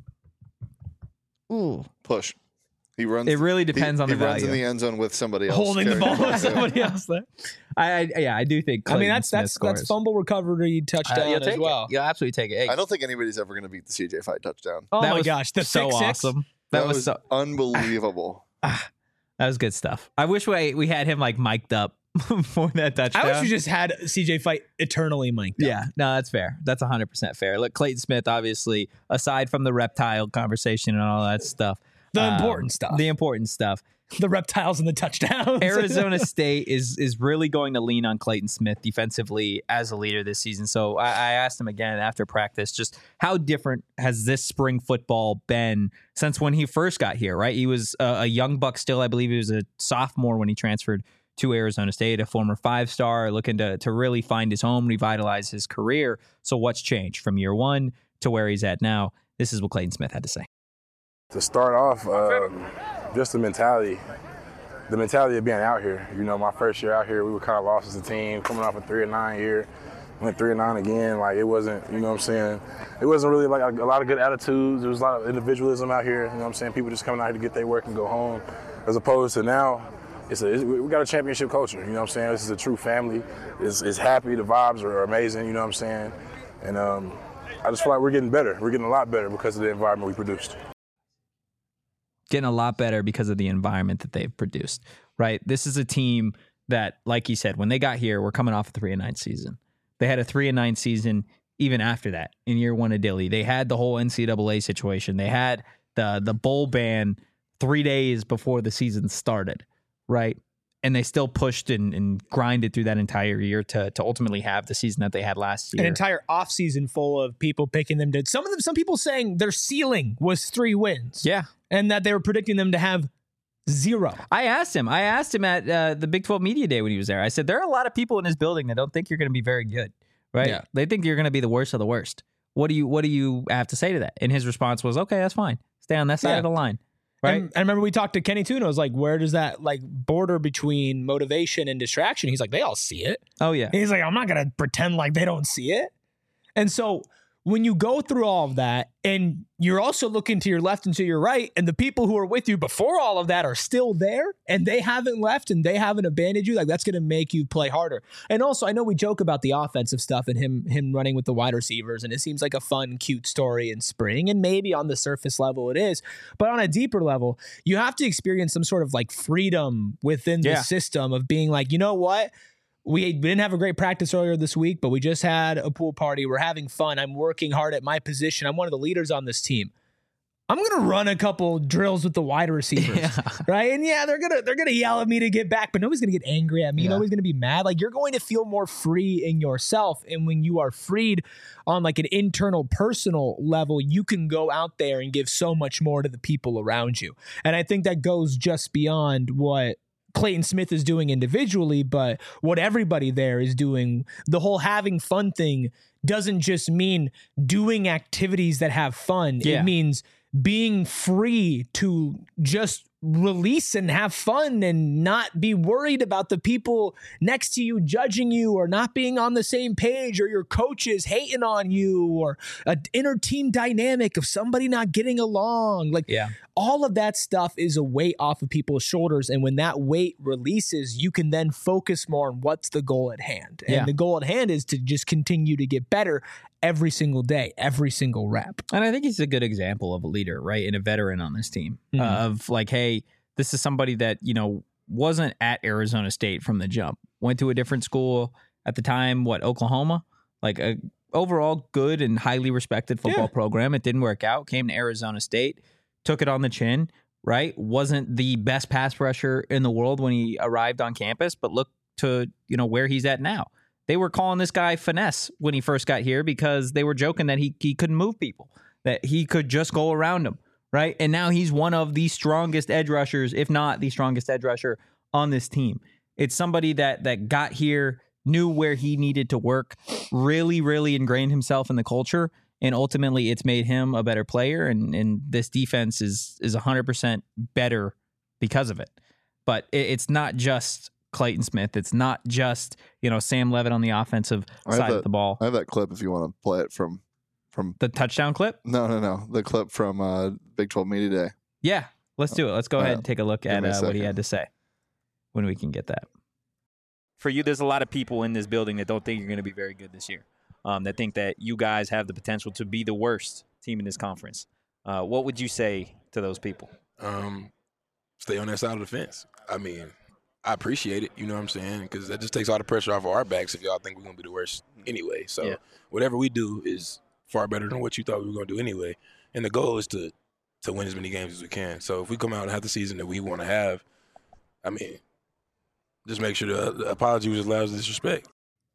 Ooh. Push. He runs. It really depends he, on the he runs value. in the end zone with somebody else Holding the carrying ball with Yeah. somebody else there. I, I yeah, I do think. I mean, Clayton that's Smith that's scores. that's fumble recovery touchdown Uh, you'll as take well. it. You'll absolutely take it. Hey, I don't think anybody's ever going to beat the C J Fight touchdown. Oh that my was gosh, the so six, six? awesome. That, That was, was so unbelievable. that was good stuff. I wish we we had him like mic'd up for that touchdown. I wish we just had C J Fight eternally mic'd up. Yeah, no, that's fair. That's one hundred percent fair. Look, Clayton Smith, obviously, aside from the reptile conversation and all that stuff. The um, important stuff. The important stuff. The reptiles and the touchdowns. Arizona State is is really going to lean on Clayton Smith defensively as a leader this season. So I, I asked him again after practice, just how different has this spring football been since when he first got here, right? He was a, a young buck still. I believe he was a sophomore when he transferred to Arizona State, a former five-star looking to, to really find his home, revitalize his career. So what's changed from year one to where he's at now? This is what Clayton Smith had to say. To start off, um, just the mentality, the mentality of being out here. You know, my first year out here, we were kind of lost as a team, coming off a three and nine year. Went three and nine again. Like, it wasn't, you know what I'm saying? It wasn't really like a, a lot of good attitudes. There was a lot of individualism out here. You know what I'm saying? People just coming out here to get their work and go home. As opposed to now, it's a, it's, we got a championship culture. You know what I'm saying? This is a true family. It's, it's happy. The vibes are amazing. You know what I'm saying? And um, I just feel like we're getting better. We're getting a lot better because of the environment we produced. Getting a lot better because of the environment that they've produced, right? This is a team that, like you said, when they got here, we're coming off a three and nine season. They had a three and nine season even after that in year one of Dilly. They had the whole N C double A situation. They had the the bowl ban three days before the season started, right? And they still pushed and, and grinded through that entire year to to ultimately have the season that they had last year. An entire offseason full of people picking them to some of them, some people saying their ceiling was three wins. Yeah. And that they were predicting them to have zero. I asked him. I asked him at uh, the Big twelve Media Day when he was there. I said, there are a lot of people in this building that don't think you're going to be very good, right? Yeah. They think you're going to be the worst of the worst. What do you What do you have to say to that? And his response was, okay, that's fine. Stay on that side Yeah. of the line, right? And I remember we talked to Kenny Tuna. I was like, where does that like border between motivation and distraction? He's like, they all see it. oh, yeah. He's like, I'm not going to pretend like they don't see it. And so when you go through all of that and you're also looking to your left and to your right, and the people who are with you before all of that are still there and they haven't left and they haven't abandoned you, like that's going to make you play harder. And also, I know we joke about the offensive stuff and him him running with the wide receivers, and it seems like a fun, cute story in spring, and maybe on the surface level it is. But on a deeper level, you have to experience some sort of like freedom within the Yeah. system of being like, you know what? We, we didn't have a great practice earlier this week, but we just had a pool party. We're having fun. I'm working hard at my position. I'm one of the leaders on this team. I'm gonna run a couple drills with the wide receivers, Yeah. right? And yeah, they're gonna they're gonna yell at me to get back, but nobody's gonna get angry at me. Yeah. Nobody's gonna be mad. Like, you're going to feel more free in yourself, and when you are freed on like an internal, personal level, you can go out there and give so much more to the people around you. And I think that goes just beyond what Clayton Smith is doing individually, but what everybody there is doing. The whole having fun thing doesn't just mean doing activities that have fun. Yeah. It means being free to just release and have fun and not be worried about the people next to you judging you or not being on the same page, or your coaches hating on you, or an inner team dynamic of somebody not getting along. Like, Yeah. all of that stuff is a weight off of people's shoulders. And when that weight releases, you can then focus more on what's the goal at hand. And Yeah. the goal at hand is to just continue to get better every single day, every single rep. And I think he's a good example of a leader, right? And a veteran on this team Mhm. uh, of like, hey, this is somebody that, you know, wasn't at Arizona State from the jump, went to a different school at the time, what, Oklahoma? Like a overall good and highly respected football Yeah. program. It didn't work out, came to Arizona State, took it on the chin, right? Wasn't the best pass rusher in the world when he arrived on campus, but look to, you know, where he's at now. They were calling this guy finesse when he first got here because they were joking that he he couldn't move people, that he could just go around them, right? And now he's one of the strongest edge rushers, if not the strongest edge rusher on this team. It's somebody that that got here, knew where he needed to work, really, really ingrained himself in the culture, and ultimately it's made him a better player. And, and this defense is is one hundred percent better because of it. But it, it's not just Clayton Smith. It's not just, you know, Sam Levitt on the offensive side that, of the ball. I have that clip if you want to play it from from The touchdown clip? no no no the clip from uh, Big twelve Media Day. Yeah, let's do it. Let's go Uh, ahead and take a look give at me a uh, what he second. had to say when we can get that. For you, there's a lot of people in this building that don't think you're going to be very good this year, um, that think that you guys have the potential to be the worst team in this conference. Uh, what would you say to those people? Um, stay on that side of the fence. I mean, I appreciate it, you know what I'm saying? Because that just takes all the pressure off of our backs if y'all think we're going to be the worst anyway. So Yeah. whatever we do is far better than what you thought we were going to do anyway. And the goal is to to win as many games as we can. So if we come out and have the season that we want to have, I mean, just make sure the, the apology was allowed as disrespect.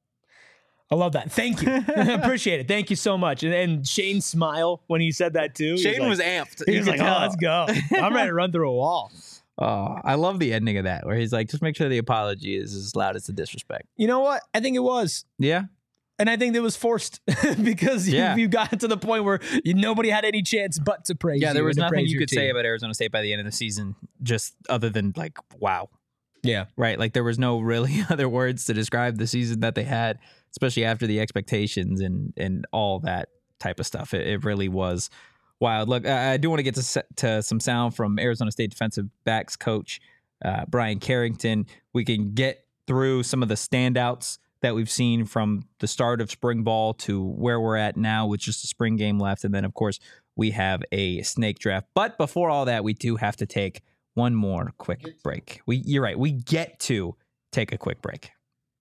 I love that. Thank you. Appreciate it. Thank you so much. And, and Shane's smile when he said that too. Shane he was, was like, amped. he You was could like, tell. oh, let's go. I'm ready to run through a wall. Oh, I love the ending of that where he's like, just make sure the apology is as loud as the disrespect. You know what? I think it was. Yeah. And I think it was forced because you, Yeah. you got to the point where you, nobody had any chance but to praise Yeah, you there was and to nothing praise you your could say team. about Arizona State by the end of the season, just other than like, wow. Yeah. Right. Like there was no really other words to describe the season that they had, especially after the expectations and, and all that type of stuff. It, it really was wild. Look, I, I do want to get to, se- to some sound from Arizona State defensive backs coach uh, Brian Carrington. We can get through some of the standouts that we've seen from the start of spring ball to where we're at now with just a spring game left. And then, of course, we have a snake draft. But before all that, we do have to take one more quick break. We, you're right. We get to take a quick break.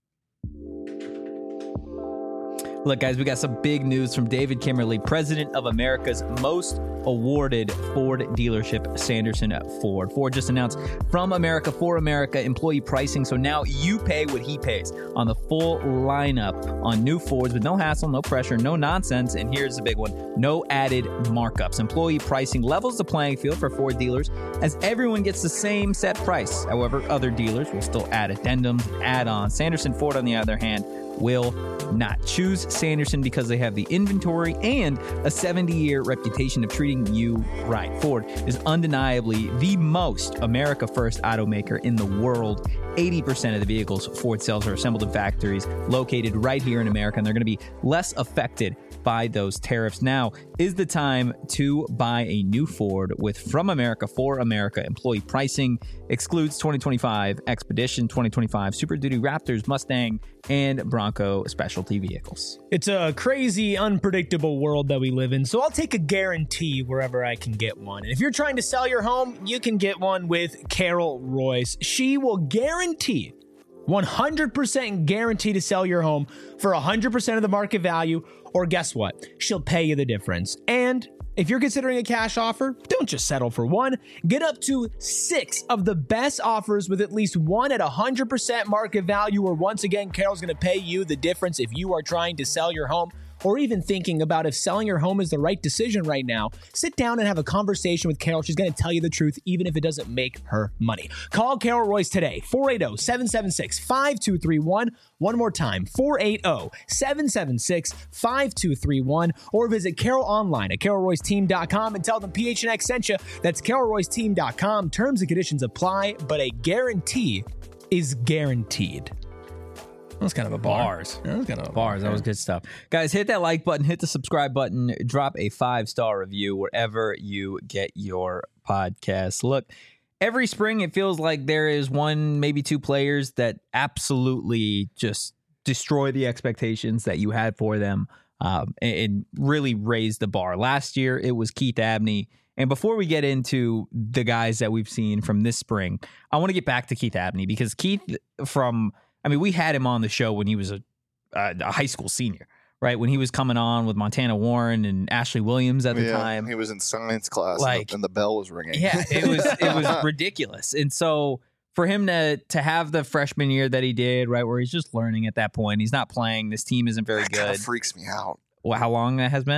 Look, guys, we got some big news from David Kimmerly, president of America's most awarded Ford dealership, Sanderson Ford. Ford just announced From America for America employee pricing, so now you pay what he pays on the full lineup on new Fords with no hassle, no pressure, no nonsense, and here's the big one, no added markups. Employee pricing levels the playing field for Ford dealers as everyone gets the same set price. However, other dealers will still add addendums, add-ons. Sanderson Ford, on the other hand, will not. Choose Sanderson because they have the inventory and a seventy-year reputation of treating you right. Ford is undeniably the most America-first automaker in the world. eighty percent of the vehicles Ford sells are assembled in factories located right here in America, and they're going to be less affected by those tariffs. Now is the time to buy a new Ford with From America for America employee pricing. Excludes twenty twenty-five Expedition, twenty twenty-five Super Duty Raptors, Mustang, and Bronco specialty vehicles. It's a crazy, unpredictable world that we live in, so I'll take a guarantee wherever I can get one. And if you're trying to sell your home, you can get one with Carol Royce. She will guarantee, one hundred percent guarantee to sell your home for one hundred percent of the market value, or guess what? She'll pay you the difference. And if you're considering a cash offer, don't just settle for one. Get up to six of the best offers with at least one at one hundred percent market value, or once again, Carol's going to pay you the difference if you are trying to sell your home or even thinking about if selling your home is the right decision right now. Sit down and have a conversation with Carol. She's going to tell you the truth, even if it doesn't make her money. Call Carol Royce today, four eight zero, seven seven six, five two three one. One more time, four eight zero, seven seven six, five two three one, or visit Carol online at carol royce team dot com and tell them P H N X sent you. That's carol royce team dot com. Terms and conditions apply, but a guarantee is guaranteed. That's kind of a bar. Bars. That was kind of a Bars. That was good stuff. Guys, hit that like button, hit the subscribe button, drop a five-star review wherever you get your podcasts. Look, every spring it feels like there is one, maybe two players that absolutely just destroy the expectations that you had for them um, and, and really raise the bar. Last year, it was Keith Abney. And before we get into the guys that we've seen from this spring, I want to get back to Keith Abney because Keith from... I mean, we had him on the show when he was a, a, a high school senior, right? When he was coming on with Montana Warren and Ashley Williams at the Yeah, time. he was in science class, Like- and, the, and the bell was ringing. Yeah, it was it was ridiculous. And so for him to to have the freshman year that he did, right, where he's just learning at that point, he's not playing. This team isn't very that kind good. of freaks me out. Well, how long that has been?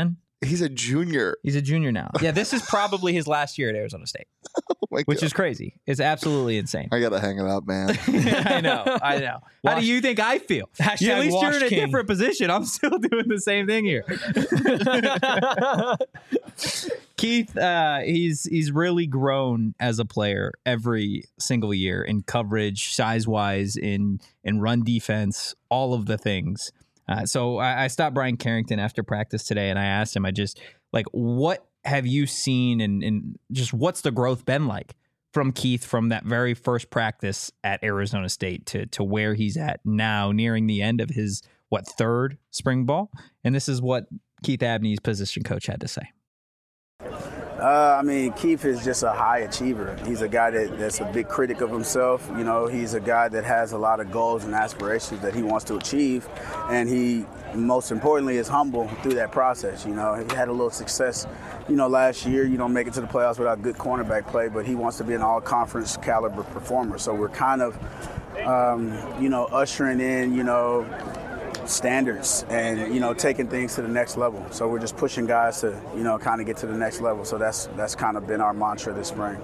He's a junior. He's a junior now. Yeah, this is probably his last year at Arizona State, Oh my which God. is crazy. It's absolutely insane. I gotta hang it up, man. I know. I know. How Wash- do you think I feel? Hashtag Yeah, at least you're Wash in a King. different position. I'm still doing the same thing here. Keith, uh, he's he's really grown as a player every single year in coverage, size wise, in in run defense, all of the things. Uh, so I, I stopped Brian Carrington after practice today, and I asked him, I just like, what have you seen, and, and just what's the growth been like from Keith from that very first practice at Arizona State to to where he's at now, nearing the end of his what third spring ball? And this is what Keith Abney's position coach had to say. Uh, I mean, Keith is just a high achiever. He's a guy that, that's a big critic of himself. You know, he's a guy that has a lot of goals and aspirations that he wants to achieve, and he, most importantly, is humble through that process. You know, he had a little success, you know, last year. You don't make it to the playoffs without good cornerback play, but he wants to be an all-conference caliber performer. So we're kind of, um, you know, ushering in, you know, standards and, you know, taking things to the next level. So we're just pushing guys to, you know, kind of get to the next level. So that's that's kind of been our mantra this spring.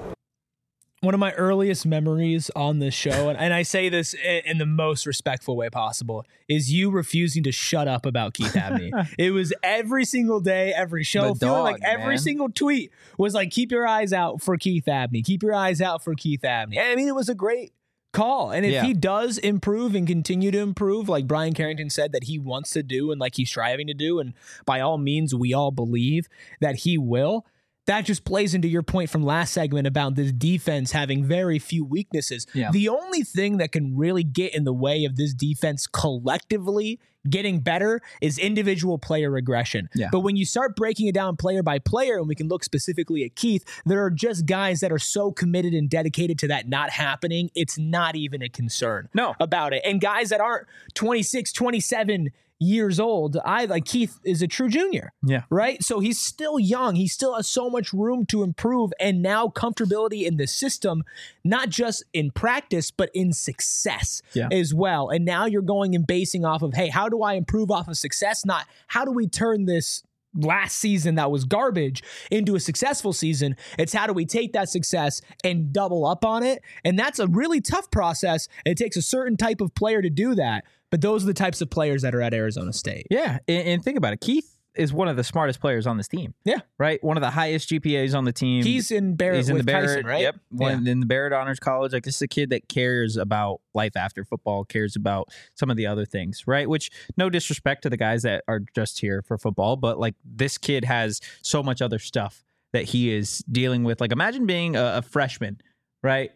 One of my earliest memories on this show, and, and I say this in, in the most respectful way possible, is you refusing to shut up about Keith Abney. It was every single day, every show, The feeling dog, like every man. single tweet was like, keep your eyes out for Keith Abney. Keep your eyes out for Keith Abney. I mean, it was a great call. And if Yeah. he does improve and continue to improve, like Brian Carrington said that he wants to do and like he's striving to do, and by all means, we all believe that he will, that just plays into your point from last segment about this defense having very few weaknesses. Yeah. The only thing that can really get in the way of this defense collectively getting better is individual player regression. Yeah. But when you start breaking it down player by player, and we can look specifically at Keith, there are just guys that are so committed and dedicated to that not happening, it's not even a concern No. about it. And guys that aren't twenty-six, twenty-seven years old, I like Keith is a true junior. Yeah. Right? So he's still young. He still has so much room to improve, and now comfortability in the system, not just in practice, but in success Yeah. as well. And now you're going and basing off of, hey, how do I improve off of success? Not how do we turn this last season that was garbage into a successful season. It's how do we take that success and double up on it? And that's a really tough process. It takes a certain type of player to do that. But those are the types of players that are at Arizona State. Yeah, and, and think about it. Keith is one of the smartest players on this team. Yeah. Right? One of the highest G P As on the team. He's in Barrett He's in with the Barrett, Tyson, right? Yep. One in the Barrett Honors College. Like, this is a kid that cares about life after football, cares about some of the other things, right? Which, no disrespect to the guys that are just here for football, but like, this kid has so much other stuff that he is dealing with. Like, imagine being a, a freshman, right?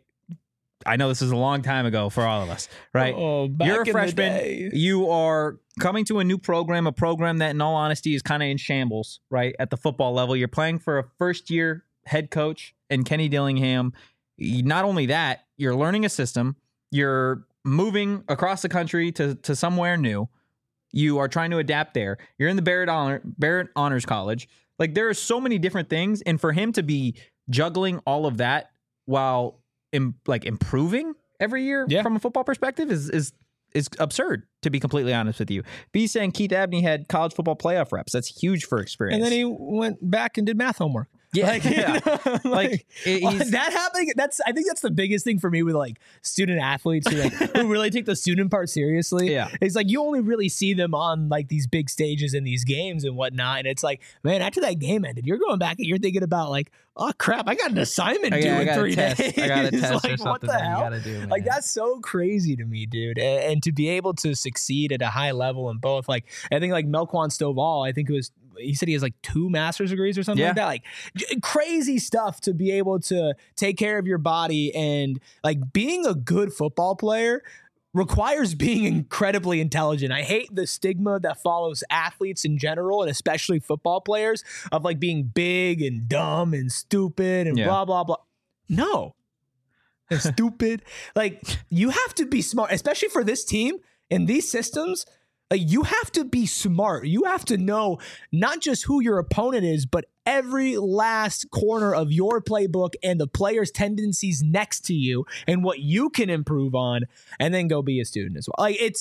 I know this is a long time ago for all of us, right? Oh, back You're in a the freshman. day. You are coming to a new program, a program that, in all honesty, is kind of in shambles, right? At the football level, you're playing for a first-year head coach and Kenny Dillingham. Not only that, you're learning a system. You're moving across the country to, to somewhere new. You are trying to adapt there. You're in the Barrett Honor, Barrett Honors College. Like, there are so many different things, and for him to be juggling all of that while Im- like improving every year Yeah. from a football perspective is is is absurd, to be completely honest with you. B saying Keith Abney had college football playoff reps. That's huge for experience. And then he went back and did math homework. yeah, Like, yeah. like, like it- he's- that happening. That's I think that's the biggest thing for me with like student athletes who like who really take the student part seriously. Yeah. It's like you only really see them on like these big stages in these games and whatnot. And it's like, man, after that game ended, you're going back and you're thinking about like, oh crap, I got an assignment I due got- I in got a three test. days. I got a test or like, what something the that you hell? gotta do, Like man. that's so crazy to me, dude. And, and to be able to succeed at a high level in both, like I think like Melquan Stovall, I think it was. He said he has like two master's degrees or something Yeah. like that. Like j- crazy stuff to be able to take care of your body, and like being a good football player requires being incredibly intelligent. I hate the stigma that follows athletes in general, and especially football players, of like being big and dumb and stupid and Yeah. blah, blah, blah. No. They're stupid. Like you have to be smart, especially for this team in these systems. Like you have to be smart. You have to know not just who your opponent is, but every last corner of your playbook and the players' tendencies next to you and what you can improve on, and then go be a student as well. Like it's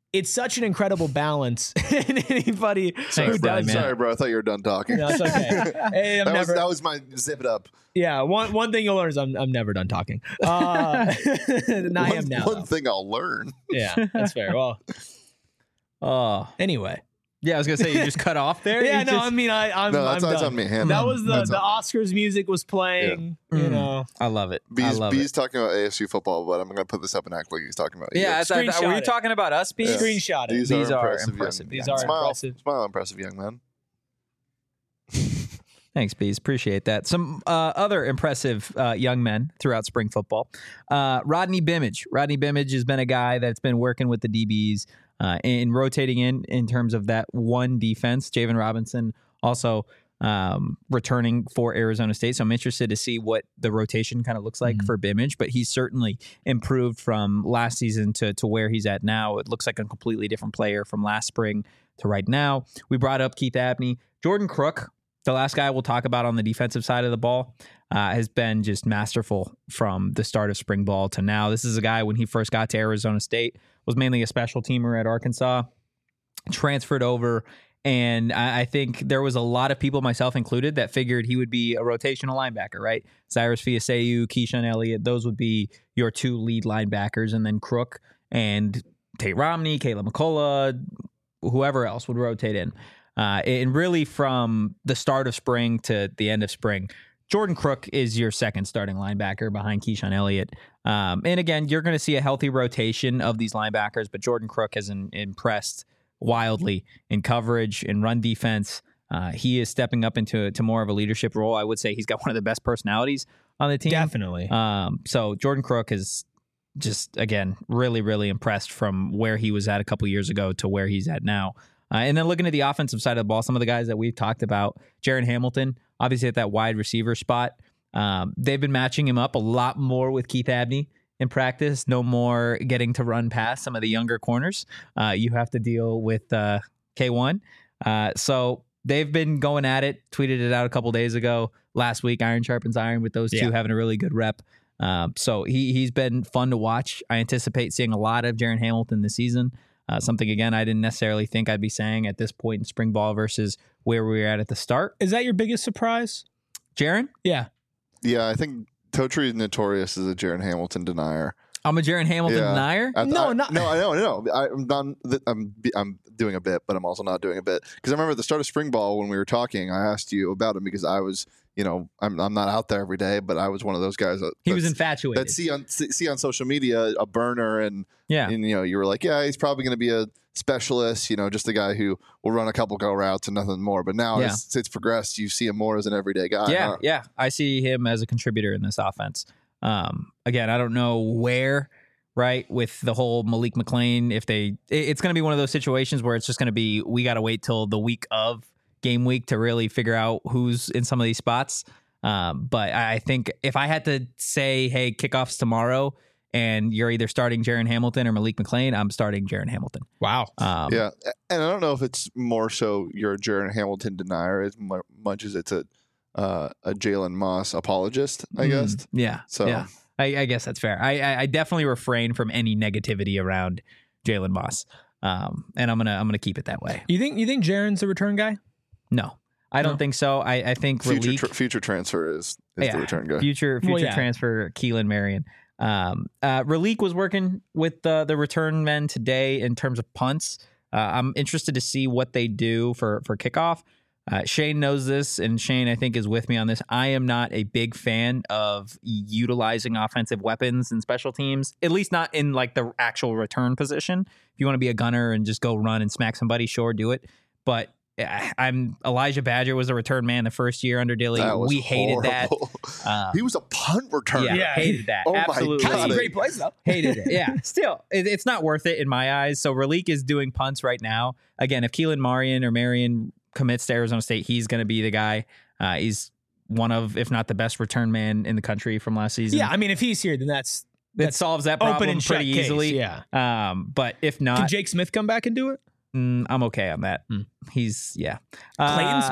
it's such an incredible balance. And anybody Sorry, who bro. does Sorry, bro. I thought you were done talking. No, it's okay. Hey, I'm that, was, never, that was my zip it up. yeah, one one thing you'll learn is I'm I'm never done talking. Uh, and I one, am now. One though. thing I'll learn. Yeah, that's fair. Well, Oh, anyway. yeah. I was gonna say you just cut off there. Yeah, You no, just- I mean, I, I'm, No, that's, I'm that's done. on me. Hand That on. was the That's the on me. Oscars music was playing. You Mm. know, I love it. I Bees, love Bees it. talking about A S U football, but I'm going to put this up and act like he's talking about you. Yeah, I thought- Screenshot were you it. talking about us, Bees? Yeah. screenshot it. These, These are are impressive. impressive. Young, These are smile, impressive. Smile, impressive young man. Thanks, Bees. Appreciate that. Some uh, other impressive uh, young men throughout spring football. Uh, Rodney Bimage. Rodney Bimage has been a guy that's been working with the D Bs uh, and rotating in in terms of that one defense. Javen Robinson also um, returning for Arizona State. So I'm interested to see what the rotation kind of looks like Mhm. for Bimage, but he's certainly improved from last season to, to where he's at now. It looks like a completely different player from last spring to right now. We brought up Keith Abney. Jordan Crook, the last guy we'll talk about on the defensive side of the ball, uh, has been just masterful from the start of spring ball to now. This is a guy, when he first got to Arizona State, was mainly a special teamer at Arkansas, transferred over, and I, I think there was a lot of people, myself included, that figured he would be a rotational linebacker, right? Cyrus Fiaseu, Keyshawn Elliott, those would be your two lead linebackers, and then Crook and Tate Romney, Caleb McCullough, whoever else would rotate in. Uh, and really from the start of spring to the end of spring, Jordan Crook is your second starting linebacker behind Keyshawn Elliott. Um, and again, you're going to see a healthy rotation of these linebackers, but Jordan Crook has in, impressed wildly in coverage and run defense. Uh, he is stepping up into to more of a leadership role. I would say he's got one of the best personalities on the team. definitely. Um, so Jordan Crook is just, again, really, really impressed from where he was at a couple years ago to where he's at now. Uh, and then looking at the offensive side of the ball, some of the guys that we've talked about, Jaron Hamilton, obviously at that wide receiver spot. Um, they've been matching him up a lot more with Keith Abney in practice. No more getting to run past some of the younger corners. Uh, you have to deal with uh, K one. Uh, so they've been going at it. Tweeted it out a couple days ago. Last week, iron sharpens iron with those two Yeah. having a really good rep. Um, so he, he's been fun to watch. I anticipate seeing a lot of Jaron Hamilton this season. Uh, something, again, I didn't necessarily think I'd be saying at this point in spring ball versus where we were at at the start. Is that your biggest surprise? Jaron? Yeah. Yeah, I think Totri is notorious as a Jaron Hamilton denier. I'm a Jaron Hamilton Yeah. denier? I, No, I, not- no, I know, no. I, I'm not. I'm I'm doing a bit, but I'm also not doing a bit because I remember at the start of spring ball when we were talking, I asked you about him because I was, you know, I'm I'm not out there every day, but I was one of those guys that He was that's- infatuated. that see on see see on social media a burner and yeah. and you know you were like, yeah, he's probably going to be a specialist, you know, just a guy who will run a couple go routes and nothing more. But now Yeah. as it's progressed, you see him more as an everyday guy. Yeah, huh? yeah. I see him as a contributor in this offense. Um, again, I don't know where, right, with the whole Malik McLean, if they, it- it's going to be one of those situations where it's just going to be, we got to wait till the week of game week to really figure out who's in some of these spots. Um, but I I think if I had to say, hey, kickoff's tomorrow, and you're either starting Jaron Hamilton or Malik McLean, I'm starting Jaron Hamilton. Wow. Um, Yeah, and I don't know if it's more so you're a Jaron Hamilton denier as mu- much as it's a uh, a Jalen Moss apologist, I mm, guess. Yeah. So yeah. I, I guess that's fair. I, I, I definitely refrain from any negativity around Jalen Moss, um, and I'm gonna I'm gonna keep it that way. You think you think Jaron's a return guy? No, I don't No. think so. I, I think future Raleek, tr- future transfer is is Yeah, the return guy. future future Well, yeah. transfer Keelan Marion. Um, uh, Raleek was working with the the return men today in terms of punts. Uh, I'm interested to see what they do for for kickoff. Uh, Shane knows this, and Shane, I think, is with me on this. I am not a big fan of utilizing offensive weapons in special teams, at least not in like the actual return position. If you want to be a gunner and just go run and smack somebody, sure, do it. But uh, I'm Elijah Badger was a return man the first year under Dilly. That was We hated horrible. that. Um, he was a punt returner. yeah, Yeah. hated that. Oh my Absolutely. God. Some Got it. great plays though. Hated it. Yeah. Still, it, it's not worth it in my eyes. So Raleek is doing punts right now. Again, if Keelan Marion or Marion commits to Arizona State, he's going to be the guy. Uh, he's one of, if not the best return man in the country from last season. Yeah, I mean, if he's here, then that's that solves that open problem and shut pretty case, easily. Yeah. Um, but if Can not, Jake Smith come back and do it? mm, I'm okay on that. Hmm. He's yeah. Clayton Uh, Smith?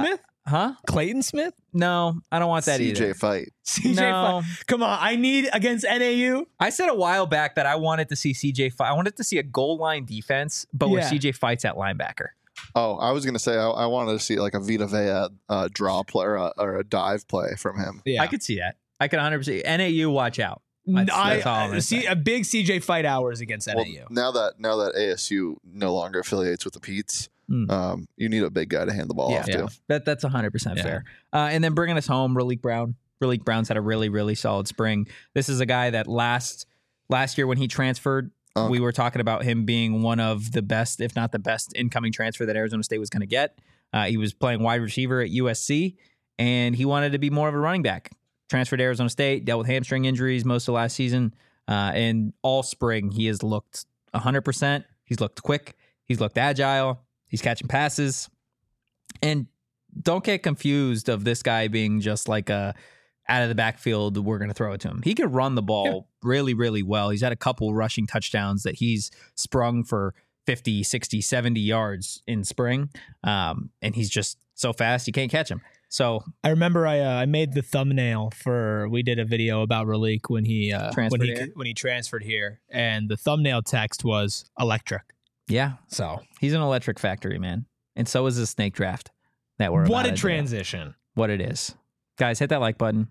Huh? Clayton Smith? No, I don't want that C J either. fight. C J No. fight. Come on, I need against N A U. I said a while back that I wanted to see C J fight. I wanted to see a goal line defense, but where Yeah. C J fights at linebacker. Oh, I was gonna say I, I wanted to see like a Vita Vea uh, draw play or a, or a dive play from him. Yeah, I could see that. I could one hundred percent. N A U, watch out. That's, I, that's all I'm I gonna see say. a big C J fight hours against Well, N A U. now that now that A S U no longer affiliates with the Pete's, Mm. um, you need a big guy to hand the ball Yeah. off Yeah. to. That that's one hundred percent Yeah. fair. Uh, and then bringing us home, Raleek Brown. Raleek Brown's had a really, really solid spring. This is a guy that last last year when he transferred, Uh. we were talking about him being one of the best, if not the best, incoming transfer that Arizona State was going to get. Uh, he was playing wide receiver at U S C, and he wanted to be more of a running back. Transferred to Arizona State, dealt with hamstring injuries most of last season, uh, and all spring he has looked one hundred percent. He's looked quick. He's looked agile. He's catching passes. And don't get confused of this guy being just like a out of the backfield, we're going to throw it to him. He can run the ball really, really well. He's had a couple rushing touchdowns that he's sprung for fifty, sixty, seventy yards in spring. Um, and he's just so fast, you can't catch him. So I remember I uh, I made the thumbnail for we did a video about Raleek when he uh, when Transferred he here? when he transferred here, and the thumbnail text was electric. yeah, So he's an electric factory, man. And so is the snake draft that we're what about a to do. transition! What it is. Guys, hit that like button.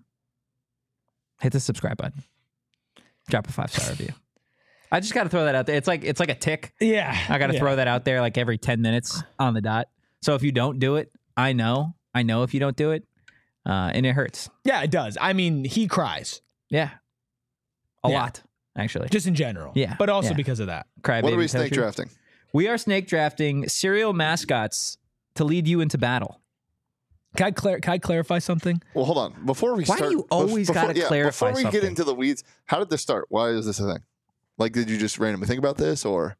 Hit the subscribe button. Drop a five star review. I just got to throw that out there. It's like it's like a tick. Yeah, I got to yeah. throw that out there like every ten minutes on the dot. So if you don't do it, I know. I know if you don't do it, uh, and it hurts. Yeah, it does. I mean, he cries Yeah, a Yeah. lot actually. just in general. Yeah, but also yeah. because of that. Cry What baby are we snake Toshi. drafting? We are snake drafting serial mascots to lead you into battle. Can I, clar- can I clarify something? Well, hold on. Before we Why do start, you always before- gotta yeah, clarify Before we something? get into the weeds, how did this start? Why is this a thing? Like, did you just randomly think about this, or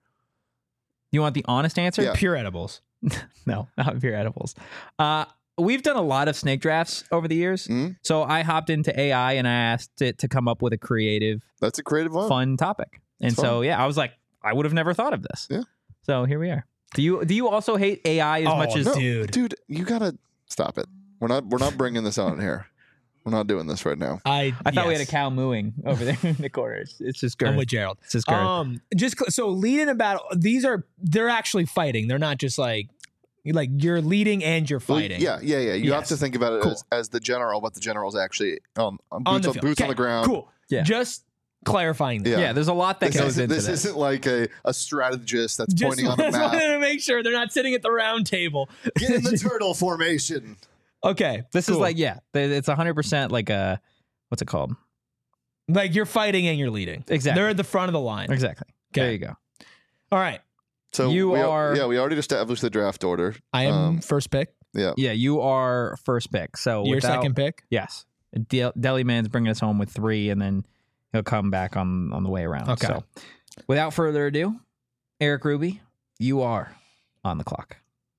You want the honest answer? Yeah. Pure edibles. No, not pure edibles. Uh, we've done a lot of snake drafts over the years. Mhm. So I hopped into A I and I asked it to come up with a creative, that's a creative one? fun topic. And It's so, yeah, I was like, I would have never thought of this. Yeah. So here we are. Do you do you also hate A I as Oh, much as no. Dude. dude, you gotta stop it. We're not. We're not bringing this on here. We're not doing this right now. I I thought we had a yes. cow mooing over there in the corner. It's, it's just I'm girth. with Gerald. It's just girth. Um, just cl- so leading a battle. These are they're actually fighting. They're not just like like you're leading and you're Well, fighting. yeah, yeah, yeah. You have Yes. to think about it Cool. as, as the general, but the general's actually um, on on boots, the on, field. boots on Okay, the ground. Cool. Yeah. Just clarifying that. Yeah. yeah. there's a lot that This, goes isn't, into this, this. isn't like a, a strategist that's Just, pointing on the just map. wanted to make sure they're not sitting at the round table. Get in the turtle formation. Okay. This is cool. like, yeah, th- it's one hundred percent like a, what's it called? like you're fighting and you're leading. Exactly. They're at the front of the line. Exactly. Okay. There you go. All right. So You we, are- Yeah, we already established the draft order. I am Um, first pick. Yeah. Yeah, you are first pick. So Your without- second pick. Yes. Del- Deli Man's bringing us home with three, and then he'll come back on, on the way around. Okay. So without further ado, Eric Ruby, you are on the clock.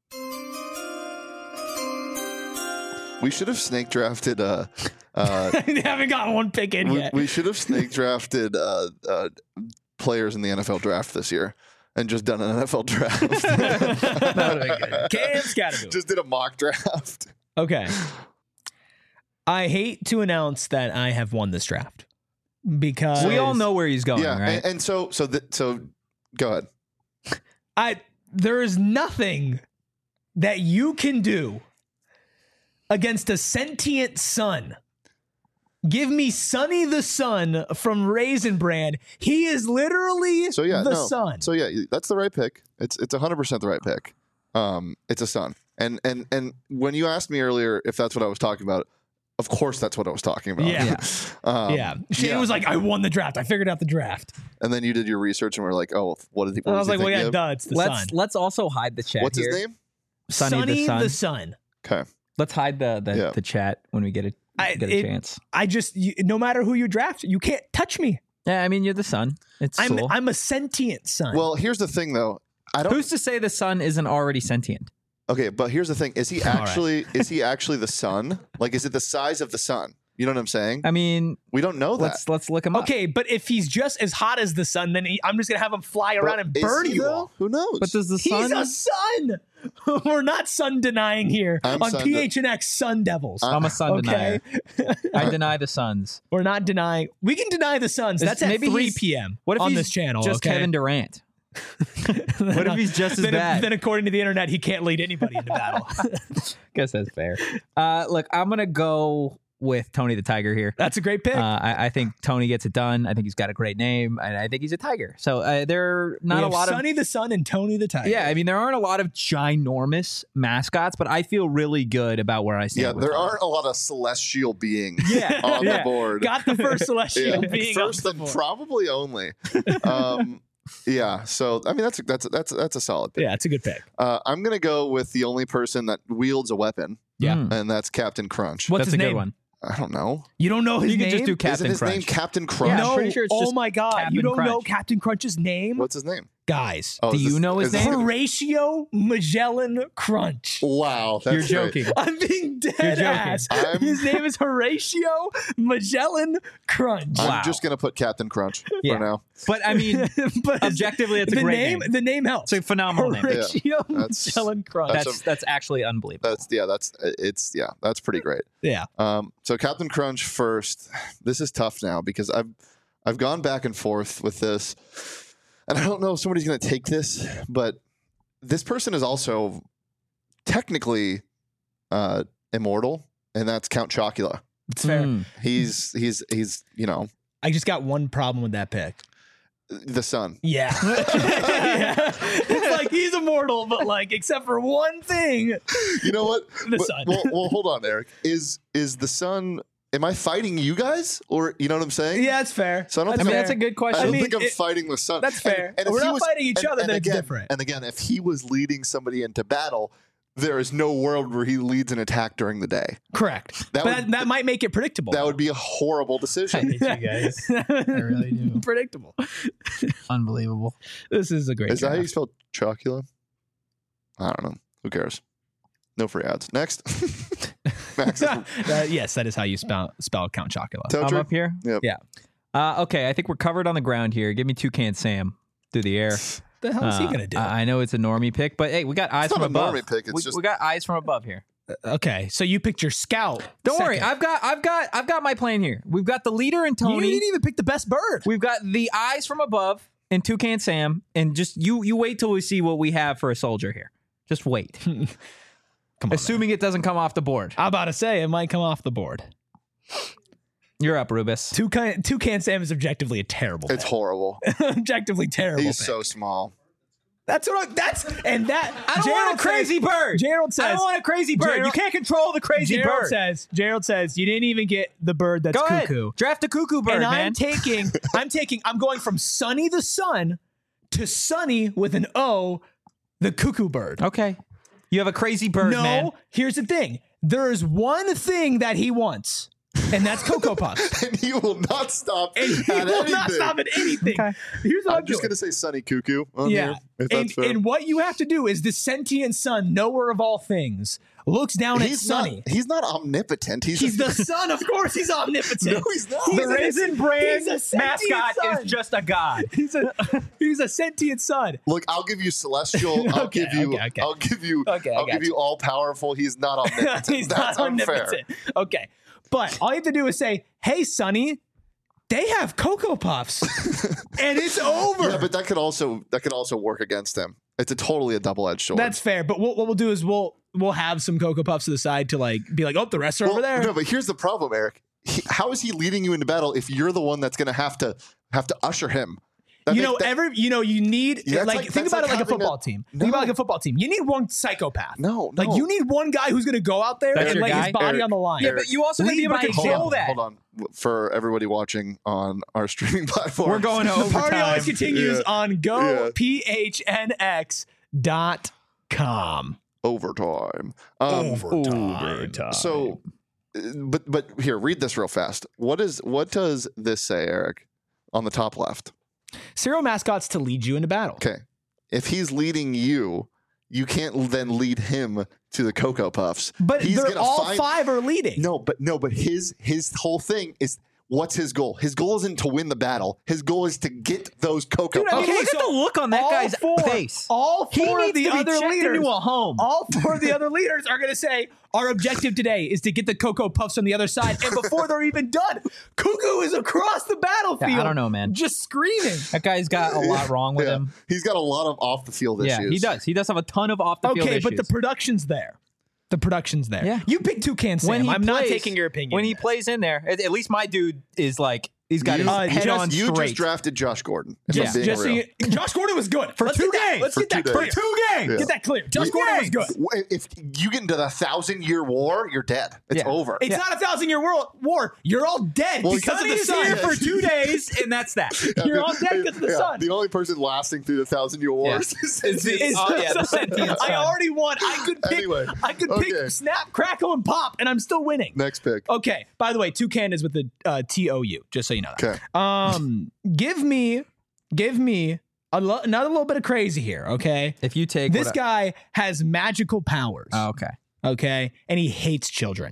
We should have snake drafted. Uh, uh, They haven't gotten one pick in we, yet. we should have snake drafted uh, uh, players in the N F L draft this year, and just done an N F L draft. That would've been good. Cam Scattergood. Just did a mock draft. Okay. I hate to announce that I have won this draft because We all know where he's going, yeah, right? and, and so so th- so go ahead. I there is nothing that you can do against a sentient sun. Give me Sonny the Sun from Raisin Brand. He is literally So yeah, the no. sun. So yeah, that's the right pick. It's it's one hundred percent the right pick. Um, it's a sun. And and and when you asked me earlier if that's what I was talking about, of course that's what I was talking about. Yeah. um, yeah. Shane yeah. was like, I won the draft. I figured out the draft. And then you did your research and we're like, oh, what did he? What And I was does he like, well, think yeah, of? duh, it's the let's sun. let's also hide the chat What's here. his name? Sonny the Sun. Okay. Let's hide the the, Yeah. the chat when we get a I- get a it- chance. I just, you, no matter who you draft, you can't touch me. Yeah, I mean you're the sun. It's I'm, cool. I'm a sentient sun. Well, here's the thing though. I don't. Who's to say the sun isn't already sentient? Okay, but here's the thing: is he All right. actually is he actually the sun? Like, is it the size of the sun? You know what I'm saying? I mean, We don't know that. let's let's look him up. Okay, but if he's just as hot as the sun, then he, I'm just gonna have him fly around But and is burn he, you though? all. Who knows? But does the He's sun? a sun. We're not sun denying here I'm on sun P H N X Sun Devils. I'm- I'm a sun Okay. denier. I deny the Suns. We're not denying. We can deny the Suns. Is- That's at maybe three he's- p.m. What if on he's this channel. just okay? Kevin Durant? What if he's just as then, bad? Then, according to the internet, he can't lead anybody into battle. Guess that's fair. Uh, look, I'm gonna go with Tony the Tiger here. That's a great pick. Uh, I, I think Tony gets it done. I think he's got a great name, and I think he's a Tiger. So uh, there are we not a have lot of Sonny the Sun and Tony the Tiger. yeah. I mean, there aren't a lot of ginormous mascots, but I feel really good about where I stand. yeah, with there Tony. aren't a lot of celestial beings Yeah. on Yeah. the board. Got the first celestial Yeah. being First on and the board. probably only. Um, yeah, so I mean that's a, that's a, that's a, that's a solid pick. Yeah, it's a good pick. Uh, I'm gonna go with the only person that wields a weapon, Yeah. Mm, and that's Captain Crunch. What's that's his a good name? one. I don't know. You don't know his You name? can just do Isn't Captain his Crunch. name Captain Crunch? Yeah, I'm no. pretty sure it's oh just my God. Captain you don't know Crunch. Captain Crunch's name? What's his name? Guys. Oh, Do is you this- know his is this name? gonna- Horatio Magellan Crunch. Wow, that's You're great. joking. I'm being dead You're joking. ass. I'm- His name is Horatio Magellan Crunch. I'm Wow. just gonna put Captain Crunch Yeah. for now. But I mean, but his- objectively, it's a the great name, name. The name helps. It's a phenomenal name. Horatio That's- Magellan Crunch. that's That's that's actually unbelievable. That's yeah, that's it's yeah, that's pretty great. yeah. Um, so Captain Crunch first. This is tough now because I've I've gone back and forth with this, and I don't know if somebody's going to take this, but this person is also technically uh, immortal, and that's Count Chocula. It's fair. Mm. He's he's he's you know I just got one problem with that pick. the sun. Yeah. Yeah. It's like he's immortal, but like except for one thing. You know what? The But- sun. Well, well, hold on, Eric. Is is the sun? Am I fighting you guys, or you know what I'm saying? Yeah, it's fair. So I don't I think mean, I'm- that's a good I question. don't I mean, think I'm it- fighting the sun. That's fair. And, and if We're he not was, fighting each and- other, and then it's again, different. And again, if he was leading somebody into battle, there is no world where he leads an attack during the day. Correct. That but would- that, that might make it predictable. That would be a horrible decision. you guys. I really do. Predictable. Unbelievable. This is a great. Is that how you draft. spell Chocula? I don't know. Who cares? No free ads. Next. Max. Uh, yes, that is how you spell spell Count Chocula. I'm Toaster? up here. Yep. Yeah. Uh, okay, I think we're covered on the ground here. Give me Toucan Sam through the air. What the hell is he Uh, gonna do? I I know it's a normie pick, but hey, we got eyes It's from not a above. normie pick, it's we, just- we got eyes from above here. okay, so you picked your scout. Don't worry, second. I've got, I've got, I've got my plan here. We've got the leader in You Tony. didn't even pick the best bird. We've got the eyes from above and Toucan Sam, and just you, you wait till we see what we have for a soldier here. Just wait. Come on. Assuming it doesn't come off the board. I'm about to say it might come off the board. You're up, Rubus. Toucan Toucan Sam is objectively a terrible. It's pick. horrible. objectively terrible. He's pick. so small. That's what I, that's and that. I don't Gerald want a crazy says, bird. Gerald I says. don't want a crazy bird. Gerald- you can't control the crazy Gerald bird. says. Gerald says you didn't even get the bird that's Go ahead. cuckoo. Draft a cuckoo bird, and man. I'm taking. I'm taking. I'm going from Sonny the Sun to Sonny with an O, the cuckoo bird. okay. You have a crazy bird, no, man. here's the thing. There is one thing that he wants, and that's Cocoa Puffs. And he will not stop And he at will anything. not stop at anything. Okay. Here's what I'm, I'm just doing. going to say Sunny Cuckoo on Yeah. here, if And, that's fair. and what you have to do is the sentient sun, knower of all things, looks down at he's Sonny. not. He's not omnipotent. He's, He's a, the sun. Of course, he's omnipotent. No, he's not. He's The a- Raisin Bran he's a sentient mascot sun. is just a god. He's a he's a sentient sun. Look, I'll give you celestial. I'll Okay, give you. okay, okay. I'll give you. Okay, I I'll got give you all powerful. He's not omnipotent. he's That's not unfair. omnipotent. Okay, but all you have to do is say, "Hey, Sonny, they have Cocoa Puffs," and it's over. Yeah, but that could also that could also work against him. It's a totally a double edged sword. That's fair. But what, what we'll do is we'll we'll have some Cocoa Puffs to the side to like be like, "Oh, the rest are Well, over there." No, but here's the problem, Eric. He, how is he leading you into battle if you're the one that's going to have to have to usher him? That you make- know, that- every you know, you need Yeah, that's like, like- think that's about like it like a having football a- team. No. Think about it like a football team. You need one psychopath. no, no. Like you need one guy who's going to go out there That's and your lay guy? his body Eric, on the line. Yeah, but you also need to be able to Lead by control hold on, that. hold on. For everybody watching on our streaming platform, We're going to The party overtime. always continues Yeah. on Yeah. go p h n x dot com. overtime. Um, Overtime. So, uh, but but here, read this real fast. What is what does this say, Eric? On the top left. Serial mascots to lead you into battle. Okay, if he's leading you, you can't then lead him to the Cocoa Puffs. But He's they're gonna all find, five are leading. No, but no, but his his whole thing is what's his goal? His goal isn't to win the battle. His goal is to get those Cocoa Dude, I Puffs. mean, look at the look on that all guy's four, face. All He four needs of the to be other checked leaders, into a home. all four of the other leaders are going to say, our objective today is to get the Cocoa Puffs on the other side. And before they're even done, Cuckoo is across the battlefield. Yeah, I don't know, man. Just screaming. That guy's got a lot wrong with Yeah. him. He's got a lot of off the field Yeah, issues. he does. He does have a ton of off the field Okay, issues. but the production's there. The production's there. Yeah. You pick Toucan Sam. when he I'm not plays- taking your opinion. When he in this. plays in there, at, at least my dude is like he's got You, his Uh, head just- on you straight. just drafted Josh Gordon. If Yeah, I'm being Just so real. you- Josh Gordon was good. For Let's two get that- games. Let's For get that two clear. days. Two games. Yeah. Get that clear. Josh Gordon was good. If you get into the thousand year war, you're dead. It's Yeah. over. It's not a thousand year world war. You're all dead Well, because of the He's sun. here for two days, and that's that. You're all dead because of the Yeah, sun. The only person lasting through the thousand year wars is, It's the- It's oh, the yeah, the sun. sentient I sun. already won. I could pick. Anyway, I could okay. pick snap, crackle, and pop, and I'm still winning. Next pick. Okay. By the way, Toucan is with the uh, T O U. Just so you know that. Okay. Um, give me, give me a lo- another little bit of crazy here. Okay. If you take This what I- guy has magical powers. Oh, okay. Okay, and he hates children.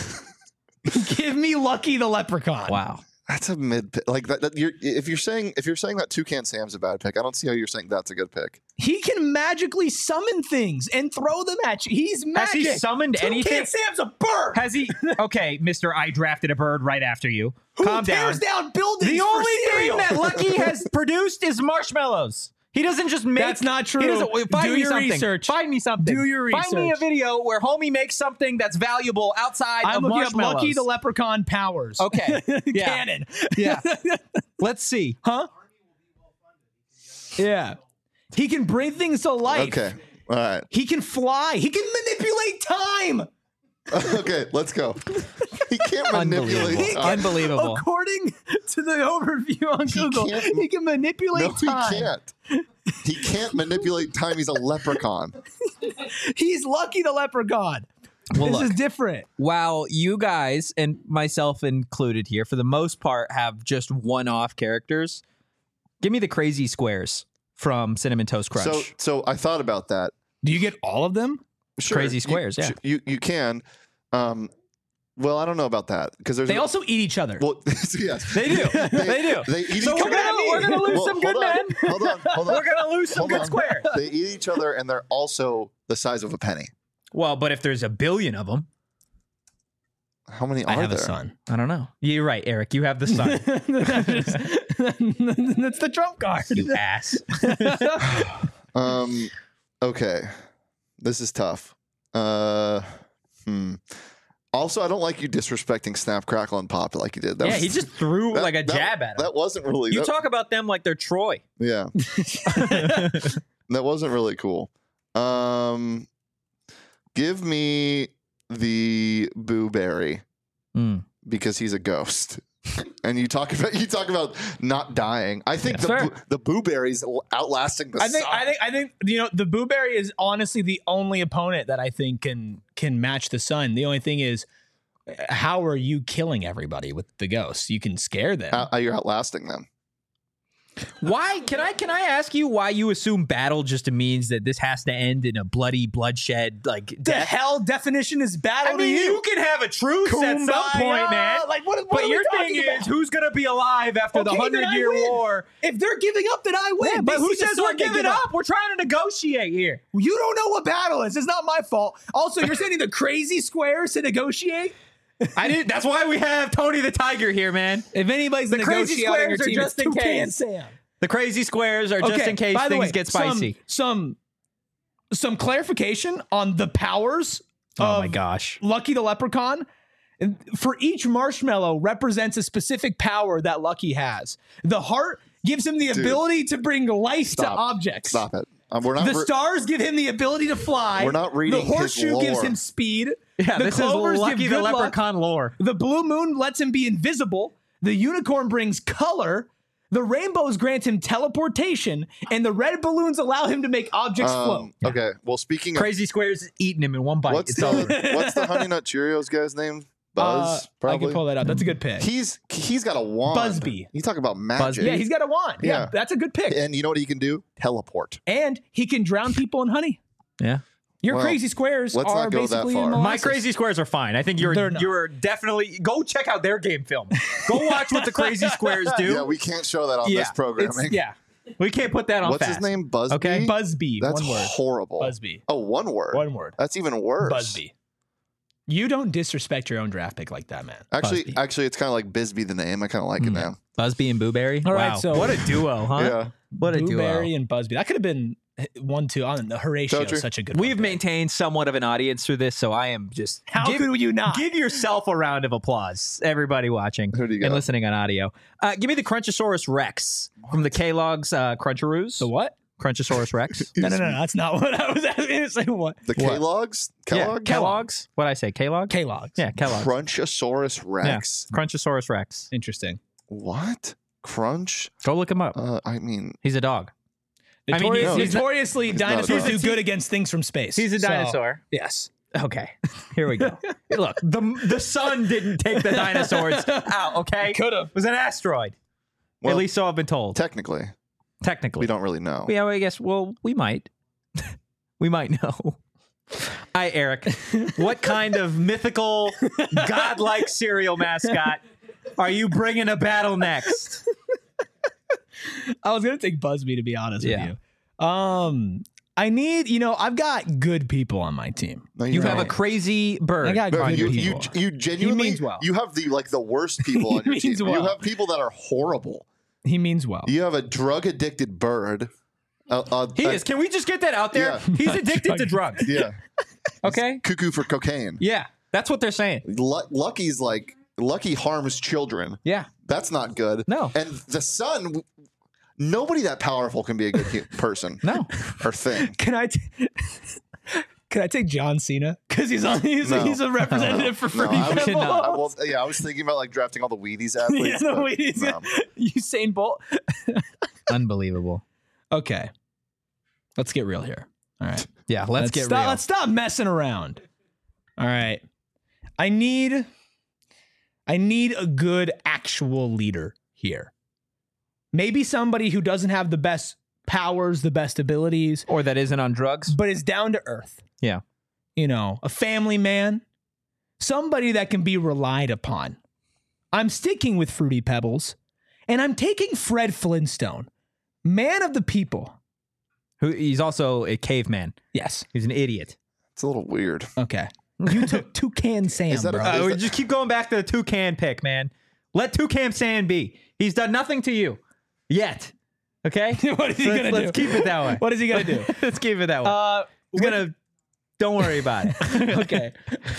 Give me Lucky the Leprechaun. Wow. That's a mid pick. Like that, that you're, if you're saying if you're saying that Toucan Sam's a bad pick, I don't see how you're saying that's a good pick. He can magically summon things and throw them at you. He's Has magic. he summoned Toucan anything? Sam's a bird. Has he? Okay, Mister I drafted a bird right after you. Who Calm tears down. down buildings The for only thing cereal? that Lucky has produced is marshmallows. He doesn't just make. That's not true. He doesn't, find Do me your something. research. Find me something. Do your Find me a research. video where homie makes something that's valuable outside I'm of looking up marshmallows. Lucky the Leprechaun powers. Okay. Yeah. Canon. Yeah. Let's see. Huh? Yeah. He can bring things to life. Okay. All right. He can fly. He can manipulate time. Okay. Let's go. He can't manipulate. Unbelievable. time. Unbelievable. According to the overview on He Google, can't- he can manipulate No, he time. can't. He can't manipulate time. He's a leprechaun. He's Lucky the Leprechaun. Well, this look. is different. While you guys and myself included here, for the most part, have just one-off characters, give me the crazy squares from Cinnamon Toast Crunch. So, so I thought about that. Do you get all of them? Sure, Crazy you- squares, yeah. You you can. Um, well, I don't know about that because there's They a- also eat each other. well, yes, They do. They do. They eat So each we're other. gonna- we're gonna lose Well, some good hold on, men. Hold on, hold on. We're gonna lose some Hold good on. squares. They eat each other, and they're also the size of a penny. Well, but if there's a billion of them, How many I are have there? a son. I don't know. You're right, Eric. You have the sun. That's the trump card. You ass. Um. Okay, this is tough. Uh. Hmm. Also, I don't like you disrespecting Snap, Crackle, and Pop like you did. That Yeah, was- he just threw that- like a that- jab at him. That wasn't really. You that- talk about them like they're Troy. Yeah. That wasn't really cool. Um, give me the Boo Berry Mm. because he's a ghost. And you talk about you talk about not dying. I think the Fair. Boo, the Boo Berry's outlasting the I think sun. I think I think you know the Boo Berry is honestly the only opponent that I think can can match the sun. The only thing is, how are you killing everybody with the ghosts? You can scare them. Uh, you're outlasting them. Why can I can I ask you why you assume battle just means that this has to end in a bloody bloodshed like the death? hell definition is battle I mean, to you? you can have a truce at some Kumbaya. point, man. Like what? what But are we your talking thing about? is who's gonna be alive after the Okay, then hundred I year win. war? If they're giving up, then I win. Yeah, but They who see the says sun, we're they giving give up? We're trying to negotiate here. You don't know what battle is. It's not my fault. Also, you're sending the crazy squares to negotiate. I didn't. That's why we have Tony the Tiger here, man. If anybody's The crazy negotiating on your squares are team, just it's in Toucan case. Sam. The crazy squares are just Okay, in case by the things way, get spicy. Some, some some clarification on the powers oh of my gosh. Lucky the Leprechaun. And for each marshmallow represents a specific power that Lucky has. The heart gives him the Dude. ability to bring life Stop. to objects. Stop it. Um, we're not. The re- stars give him the ability to fly. We're not reading The his horseshoe gives lore. him speed. Yeah, the this is clovers Lucky give the good luck. Leprechaun lore. The blue moon lets him be invisible. The unicorn brings color. The rainbows grant him teleportation, and the red balloons allow him to make objects float. um, okay. Well, speaking of Crazy squares is eating him in one bite. what's it's over. the what's the Honey Nut Cheerios guy's name? Buzz. Uh, I probably. can pull that out. That's a good pick. He's he's got a wand. Busby. You talk about magic. yeah, he's got a wand. Yeah, Yeah. that's a good pick. And you know what he can do? Teleport. And he can drown people in honey. Yeah. Your Well, crazy squares let's are not go that basically far. in My molasses. crazy squares are fine. I think you're They're not. you're definitely go check out their game film. Go watch what the crazy squares do. Yeah, we can't show that on Yeah, this programming. it's- Yeah, we can't put that on. What's fast. his name? Busby. Okay. Busby. That's one word. horrible. Busby. Oh, one word. One word. That's even worse. Busby. You don't disrespect your own draft pick like that, man. Actually, Busby. actually, it's kind of like Bisbee the name. I kind of like it now. Busby and Booberry. All wow, right, so- what a duo, huh? Yeah. What a Blueberry duo. and Busby. That could have been one, two. I don't know. Horatio Toaster. is such a good We've one. maintained somewhat of an audience through this, so I am just How give, could you not? give yourself a round of applause, everybody watching Who do you and got? listening on audio. Uh, give me the Crunchosaurus Rex from the Kellogg's uh, Cruncharoos. The what? Crunchosaurus Rex. No, no, no, no. That's not what I was asking you to say. What? The What? Kellogg's? Yeah, Kellogg? Kellogg's. What I say? Kellogg. Kellogg's. Yeah, Kellogg's. Crunchosaurus Rex. Yeah. Crunchosaurus Rex. Interesting. What? Crunch? Go look him up. Uh, I mean, He's a dog. I mean, Notori- he's- he's not- notoriously, he's not a dinosaurs dog. do good against things from space. He's a So, dinosaur. yes. Okay, here we go. Look, the the sun didn't take the dinosaurs out. Okay, Could have. It was an asteroid. well, At least so I've been told. technically, Technically, we don't really know. Yeah, well, I guess. Well, we might. we might know. Hi, Eric. What kind of mythical, godlike cereal mascot are you bringing to battle next? I was gonna take Busby to be honest Yeah. with you. Um, I need. You know, I've got good people on my team. No, You have a don't. crazy bird. I got No, good you, you, people. you genuinely, means well. you have the like the worst people on He your team. means You well. have people that are horrible. he means well. You have a drug addicted bird. Uh, uh, He uh, is. Can we just get that out there? Yeah. He's addicted to drugs. Yeah, Okay. cuckoo for cocaine. Yeah, that's what they're saying. Lu- Lucky's like Lucky harms children. Yeah. That's not good. No. And the son, nobody that powerful can be a good hu- person. No. Or thing. Can I? T- Can I take John Cena? Because he's on. He's, No. he's a representative for No, free. I was, cannot. I, well, yeah, I was thinking about like drafting all the Wheaties Yeah, athletes. no, but wait, he's no. Usain Bolt. Unbelievable. Okay, let's get real here. All right, Yeah. Let's, get stop, real. Let's stop messing around. All right, I need. I need a good actual leader here. Maybe somebody who doesn't have the best powers, the best abilities, or that isn't on drugs. but is down to earth. Yeah. You know, a family man, somebody that can be relied upon. I'm sticking with Fruity Pebbles, and I'm taking Fred Flintstone, man of the people. Who he's also a caveman. Yes. He's an idiot. It's a little weird. Okay. You took Toucan Sam, Is that a- bro. Uh, Is we that- just keep going back to the Toucan pick, man. Let Toucan Sam be. He's done nothing to you yet. Okay? What is he let's, gonna let's do? keep it that way. What is he gonna do? let's keep it that way. Uh, He's gonna. Don't worry about it. okay.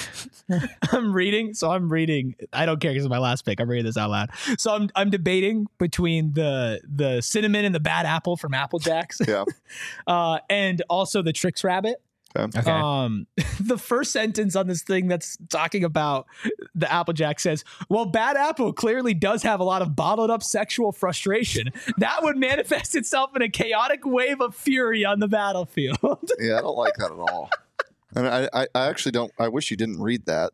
I'm reading, so I'm reading. I don't care because it's my last pick. I'm reading this out loud. So I'm I'm debating between the the cinnamon and the bad apple from Apple Jacks, Yeah. uh, and also the Trix Rabbit. Okay. Okay. Um, the first sentence on this thing that's talking about the Applejack says, well, Bad Apple clearly does have a lot of bottled up sexual frustration. That would manifest itself in a chaotic wave of fury on the battlefield. Yeah, I don't like that at all. And I, I, I actually don't. I wish you didn't read that.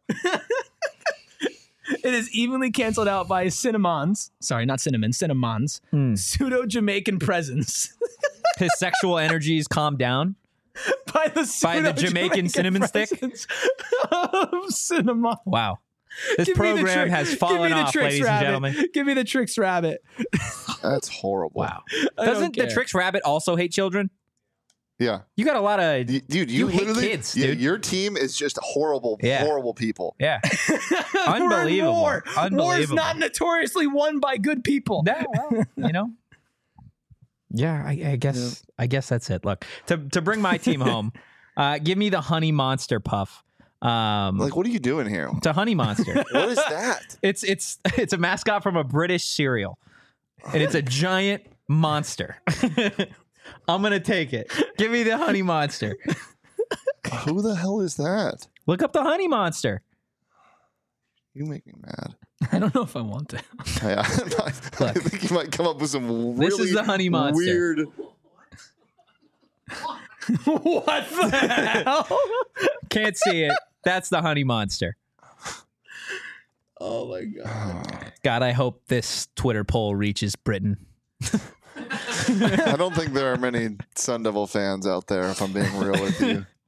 It is evenly canceled out by cinnamons. Sorry, not cinnamon, cinnamons. Hmm. Pseudo Jamaican presence. His sexual energies calm down. by the By the Jamaican pseudo-Jamaican cinnamon stick? presence of cinnamon. Wow. This Give me the program trick- has give fallen me the off, Trix ladies Rabbit. and gentlemen. Give me the Trix Rabbit. That's horrible. Wow. I don't Doesn't the care. Trix Rabbit also hate children? Yeah. You got a lot of. Y- Dude, you, You hate literally, kids, yeah, dude. your team is just horrible, Yeah. horrible people. Yeah. We're in Unbelievable. war. War's Unbelievable. not notoriously won by good people. No, well, you know. Yeah, I, I guess. I guess that's it. Look, to to bring my team home, uh, give me the Honey Monster Puff. Um, Like, what are you doing here? it's a Honey Monster. What is that? It's it's it's a mascot from a British cereal, and it's a giant monster. I'm gonna take it. Give me the Honey Monster. Who the hell is that? Look up the Honey Monster. You make me mad. I don't know if I want to. Yeah, I think you might come up with some really This is the Honey Monster. weird. What the hell? Can't see it. That's the Honey Monster. Oh my god. God, I hope this Twitter poll reaches Britain. I don't think there are many Sun Devil fans out there, if I'm being real with you.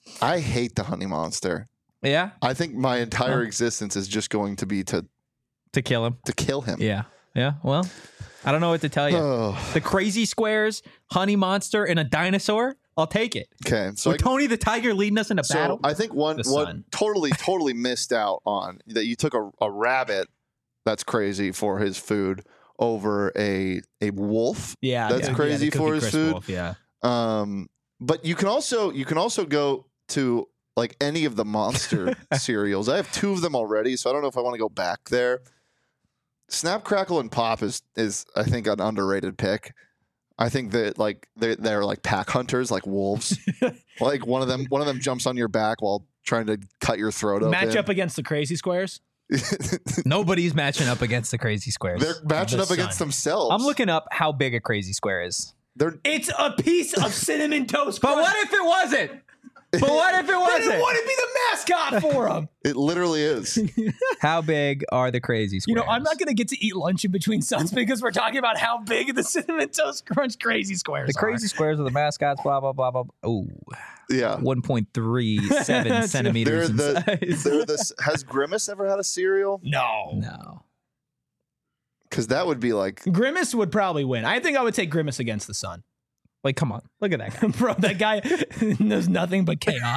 I hate the Honey Monster. Yeah, I think my entire existence is just going to be to to kill him. to kill him. Yeah, yeah. Well, I don't know what to tell you. Oh, The Crazy Squares, Honey Monster, and a dinosaur. I'll take it. okay. So With I, Tony the Tiger leading us into so battle. I think one The one sun. totally totally missed out on that you took a, a rabbit that's crazy for his food over a a wolf. Yeah, That's yeah, crazy yeah, the for Cookie his Crisp food. Wolf, yeah. Um, but you can also you can also go to like any of the monster cereals. I have two of them already, so I don't know if I want to go back there. Snap, Crackle, and Pop is is I think an underrated pick. I think that like they they're like pack hunters, like wolves. Like one of them one of them jumps on your back while trying to cut your throat open. Match up against the Crazy Squares. Nobody's matching up against the Crazy Squares. They're matching The up against sun. themselves. I'm looking up how big a Crazy Square is. They're It's a piece of cinnamon toast But crunch. what if it wasn't? But what if it Then wasn't? it wouldn't be the mascot for them. it literally is. How big are the Crazy You Squares? know, I'm not going to get to eat lunch in between suns because we're talking about how big the cinnamon toast crunch Crazy Squares The Crazy Squares are the mascots, blah, blah, blah, blah. Oh, Yeah. one point three seven centimeters in They're the, size. they're the, has Grimace ever had a cereal? are. No. No. Because that would be like Grimace would probably win. I think I would take Grimace against the sun. Like, come on. Look at that guy. Bro, that guy knows nothing but chaos.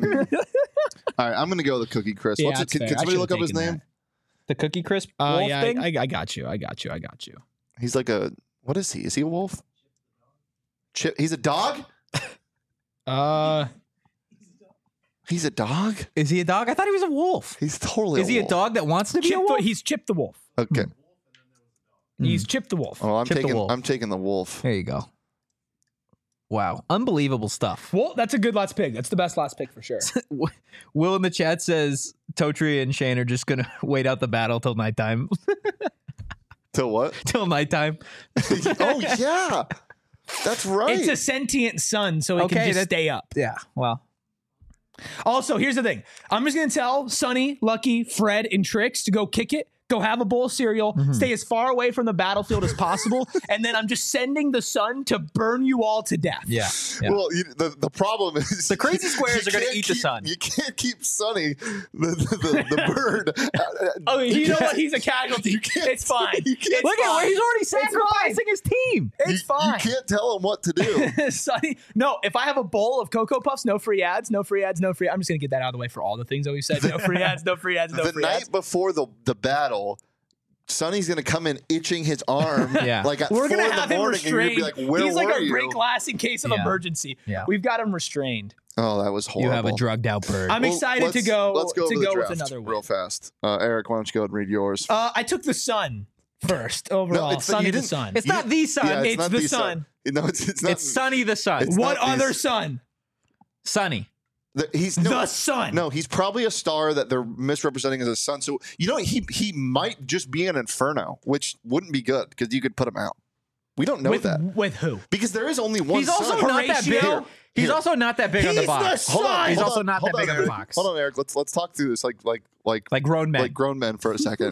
all right, I'm gonna go with the Cookie Crisp. Yeah, What's it, that's can, fair. can I somebody should've look up his taken name? The Cookie Crisp Oh, wolf yeah, thing? I, I got you. I got you. I got you. He's like a what is he? Is he a wolf? Chip. He's a dog. Uh, He's a dog. Is he a dog? I thought he was a wolf. He's totally. Is he a wolf. dog that wants to be Chip a the, wolf? he's Chip the Wolf. Okay. He's Chip the Wolf. Oh, I'm Chip the taking. wolf. I'm taking the wolf. There you go. Wow. Unbelievable stuff. Well, that's a good last pick. That's the best last pick for sure. Will in the chat says Totri and Shane are just going to wait out the battle till nighttime. Till what? till nighttime. Oh yeah, that's right. It's a sentient sun, so it Okay, can just that- stay up. Yeah. Well, Also, here's the thing. I'm just going to tell Sonny, Lucky, Fred, and Trix to go kick it, go have a bowl of cereal, Mm-hmm. stay as far away from the battlefield as possible, and then I'm just sending the sun to burn you all to death. yeah. yeah. Well, you, the the problem is The Crazy Squares you are gonna can't eat the keep- sun. You can't keep Sonny, the the, the, the bird. Oh, you know what? He's a casualty. It's fine. You can't- It's Look at where fine. he's already It's sacrificing his team. It's you, fine. You can't tell him what to do. Sonny, no, if I have a bowl of Cocoa Puffs, no free ads, no free ads, no free. I'm just gonna get that out of the way for all the things that we said. No free ads, no free ads, no the free night ads. before the the battle, Sonny's gonna come in itching his arm. Yeah. Like at We're four gonna in have the him morning, and you're restrained. gonna be like, "Where He's were like a you?" break glass in case of Yeah. emergency. Yeah. We've got him restrained. Oh, that was You horrible. have a drugged out bird. I'm Well, excited to let's- go Let's go to over the go with draft another one. real fast. Uh, Eric, why don't you go ahead and read yours? Uh, I took the sun first overall. it's the- Sunny you the didn't- sun. it's you not didn't- the sun. Yeah, it's not the sun. No, it's it's not. It's Sunny the Sun. It's What not these- other sun? Sunny. The, he's no, The sun. No, he's probably a star that they're misrepresenting as a sun. So you know he he might just be an Inferno, which wouldn't be good because you could put him out. We don't know with that with who? because there is only one. He's also sun. not that big. Horatio? He's Here. also not that big on the He's box. the Hold on, sun. He's hold also on, not hold that big on, on the Eric. box. Hold on, Eric. Let's let's talk through this like like like Like grown men. like grown men for a second.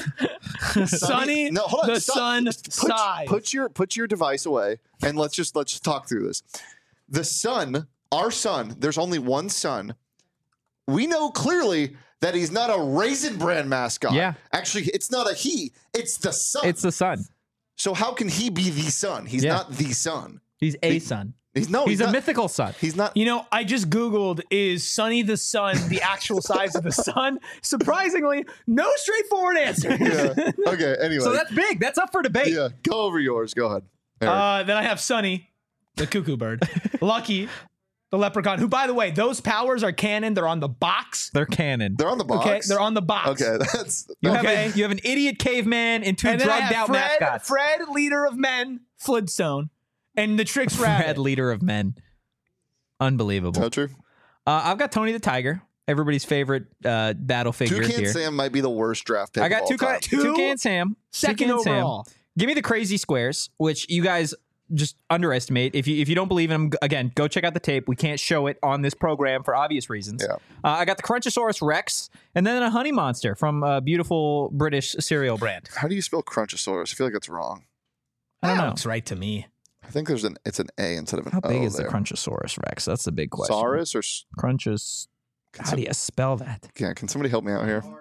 Sunny, no, hold on. the stop. sun Just put, size. put your put your device away and let's just let's just talk through this. The sun, our sun. There's only one sun. We know clearly that he's not a Raisin Bran mascot. Yeah. Actually, it's not a he. It's the sun. It's the sun. so how can he be the sun? He's Yeah. not the sun. He's a He- sun. He's no. He's, He's, a not, mythical sun. He's not. You know, I just Googled, is Sunny the sun the actual size of the sun? Surprisingly, no straightforward answer. Yeah. Okay. Anyway. So that's big. That's up for debate. yeah. Go over yours. Go ahead. Eric. Uh, then I have Sunny, the cuckoo bird. Lucky, the leprechaun, who, by the way, those powers are canon. They're on the box. They're canon. They're on the box. Okay, they're on the box. Okay. That's. You have, Okay. a, you have an idiot caveman and two And then I drugged have out Fred, mascots. Fred, leader of men, Flintstone, and the Trix Fred, Rabbit. leader of men. Unbelievable. Not true. Uh, I've got Tony the Tiger, everybody's favorite uh, battle figure Toucan here. Sam might be the worst draft pick. I got of two all time. Toucan Sam. Second Toucan Sam. overall. Give me the Crazy Squares, which you guys just underestimate. If you if you don't believe in them, again, go check out the tape. We can't show it on this program for obvious reasons. Yeah. Uh, I got the Crunchosaurus Rex, and then a Honey Monster from a beautiful British cereal brand. How do you spell Crunchosaurus? I feel like that's wrong. I don't That know. looks right to me. I think there's an it's an A instead of an How big O is there. the Crunchosaurus Rex? That's the big question. Saurus or s- Crunchos. Can How some- do you spell that? yeah? Can somebody help me out here?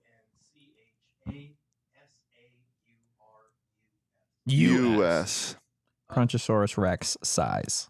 U S. Crunchosaurus Rex size.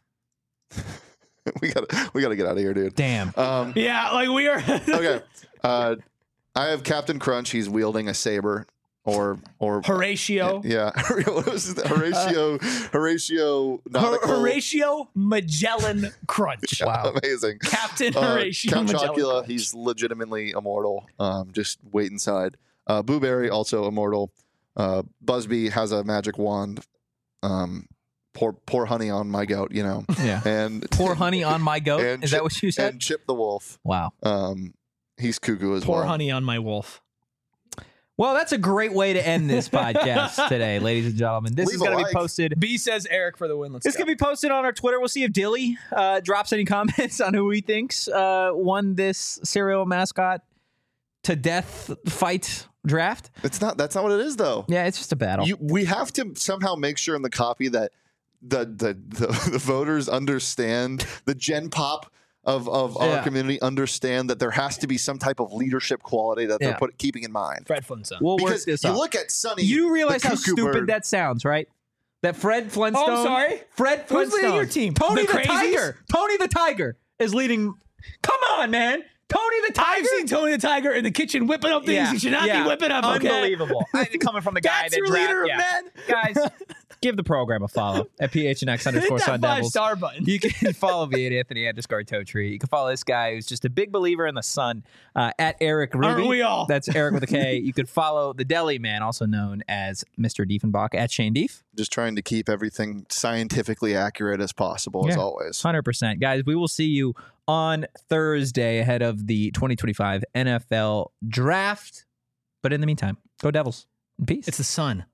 we gotta we gotta get out of here, dude. Damn. Um, Yeah, like we are. okay. Uh, I have Captain Crunch. He's wielding a saber, or or Horatio. yeah, what was it? Horatio Horatio nautical. Horatio Magellan Crunch. Wow. Amazing. Captain Uh, Horatio Count Magellan Chocula, Crunch. he's legitimately immortal. Um, just wait inside. Uh, Booberry, also immortal. Uh, Busby has a magic wand. Um, pour pour honey on my goat, you know. Yeah. And Pour honey on my goat. and Is Chip- that what you said? And Chip the wolf. Wow. Um, he's cuckoo as Pour well. honey on my wolf. Well, that's a great way to end this podcast today, ladies and gentlemen. This Leave is a going to like. be posted. B says Eric for the win. Let's This go. can be posted on our Twitter. We'll see if Dilly uh, drops any comments on who he thinks uh, won this cereal mascot to death fight draft. It's not. That's not what it is, though. Yeah, it's just a battle. You, we have to somehow make sure in the copy that the the the, the voters understand the Gen Pop of of Yeah. our community understand that there has to be some type of leadership quality that Yeah. they're put, keeping in mind. Fred Flintstone. we'll work Because this you out. look at Sonny, You realize the how cuckoo stupid bird. that sounds, right? That Fred Flintstone. Oh, I'm sorry? Fred Who's Flintstone. leading your team? Tony The the, Crazies? Tiger. Tony the Tiger is leading. Come on, man. Tony the Tiger. I've seen Tony the Tiger in the kitchen whipping up things he should not yeah. be whipping up. Okay? Unbelievable. I, coming from the guy That's that your draft- leader, yeah. man. Guys, give the program a follow at P H N X underscore Hit Sun that five Devils. star button. You can follow me at Anthony underscore Totri. You can follow this guy who's just a big believer in the sun uh, at Eric Ruby. Aren't we all? That's Eric with a K. You could follow the Deli Man, also known as Mister Diefenbach, at Shane Dief. Just trying to keep everything scientifically accurate as possible, as Yeah. always. one hundred percent. Guys, we will see you on Thursday ahead of the twenty twenty-five N F L Draft. But in the meantime, go Devils. In peace. It's the sun.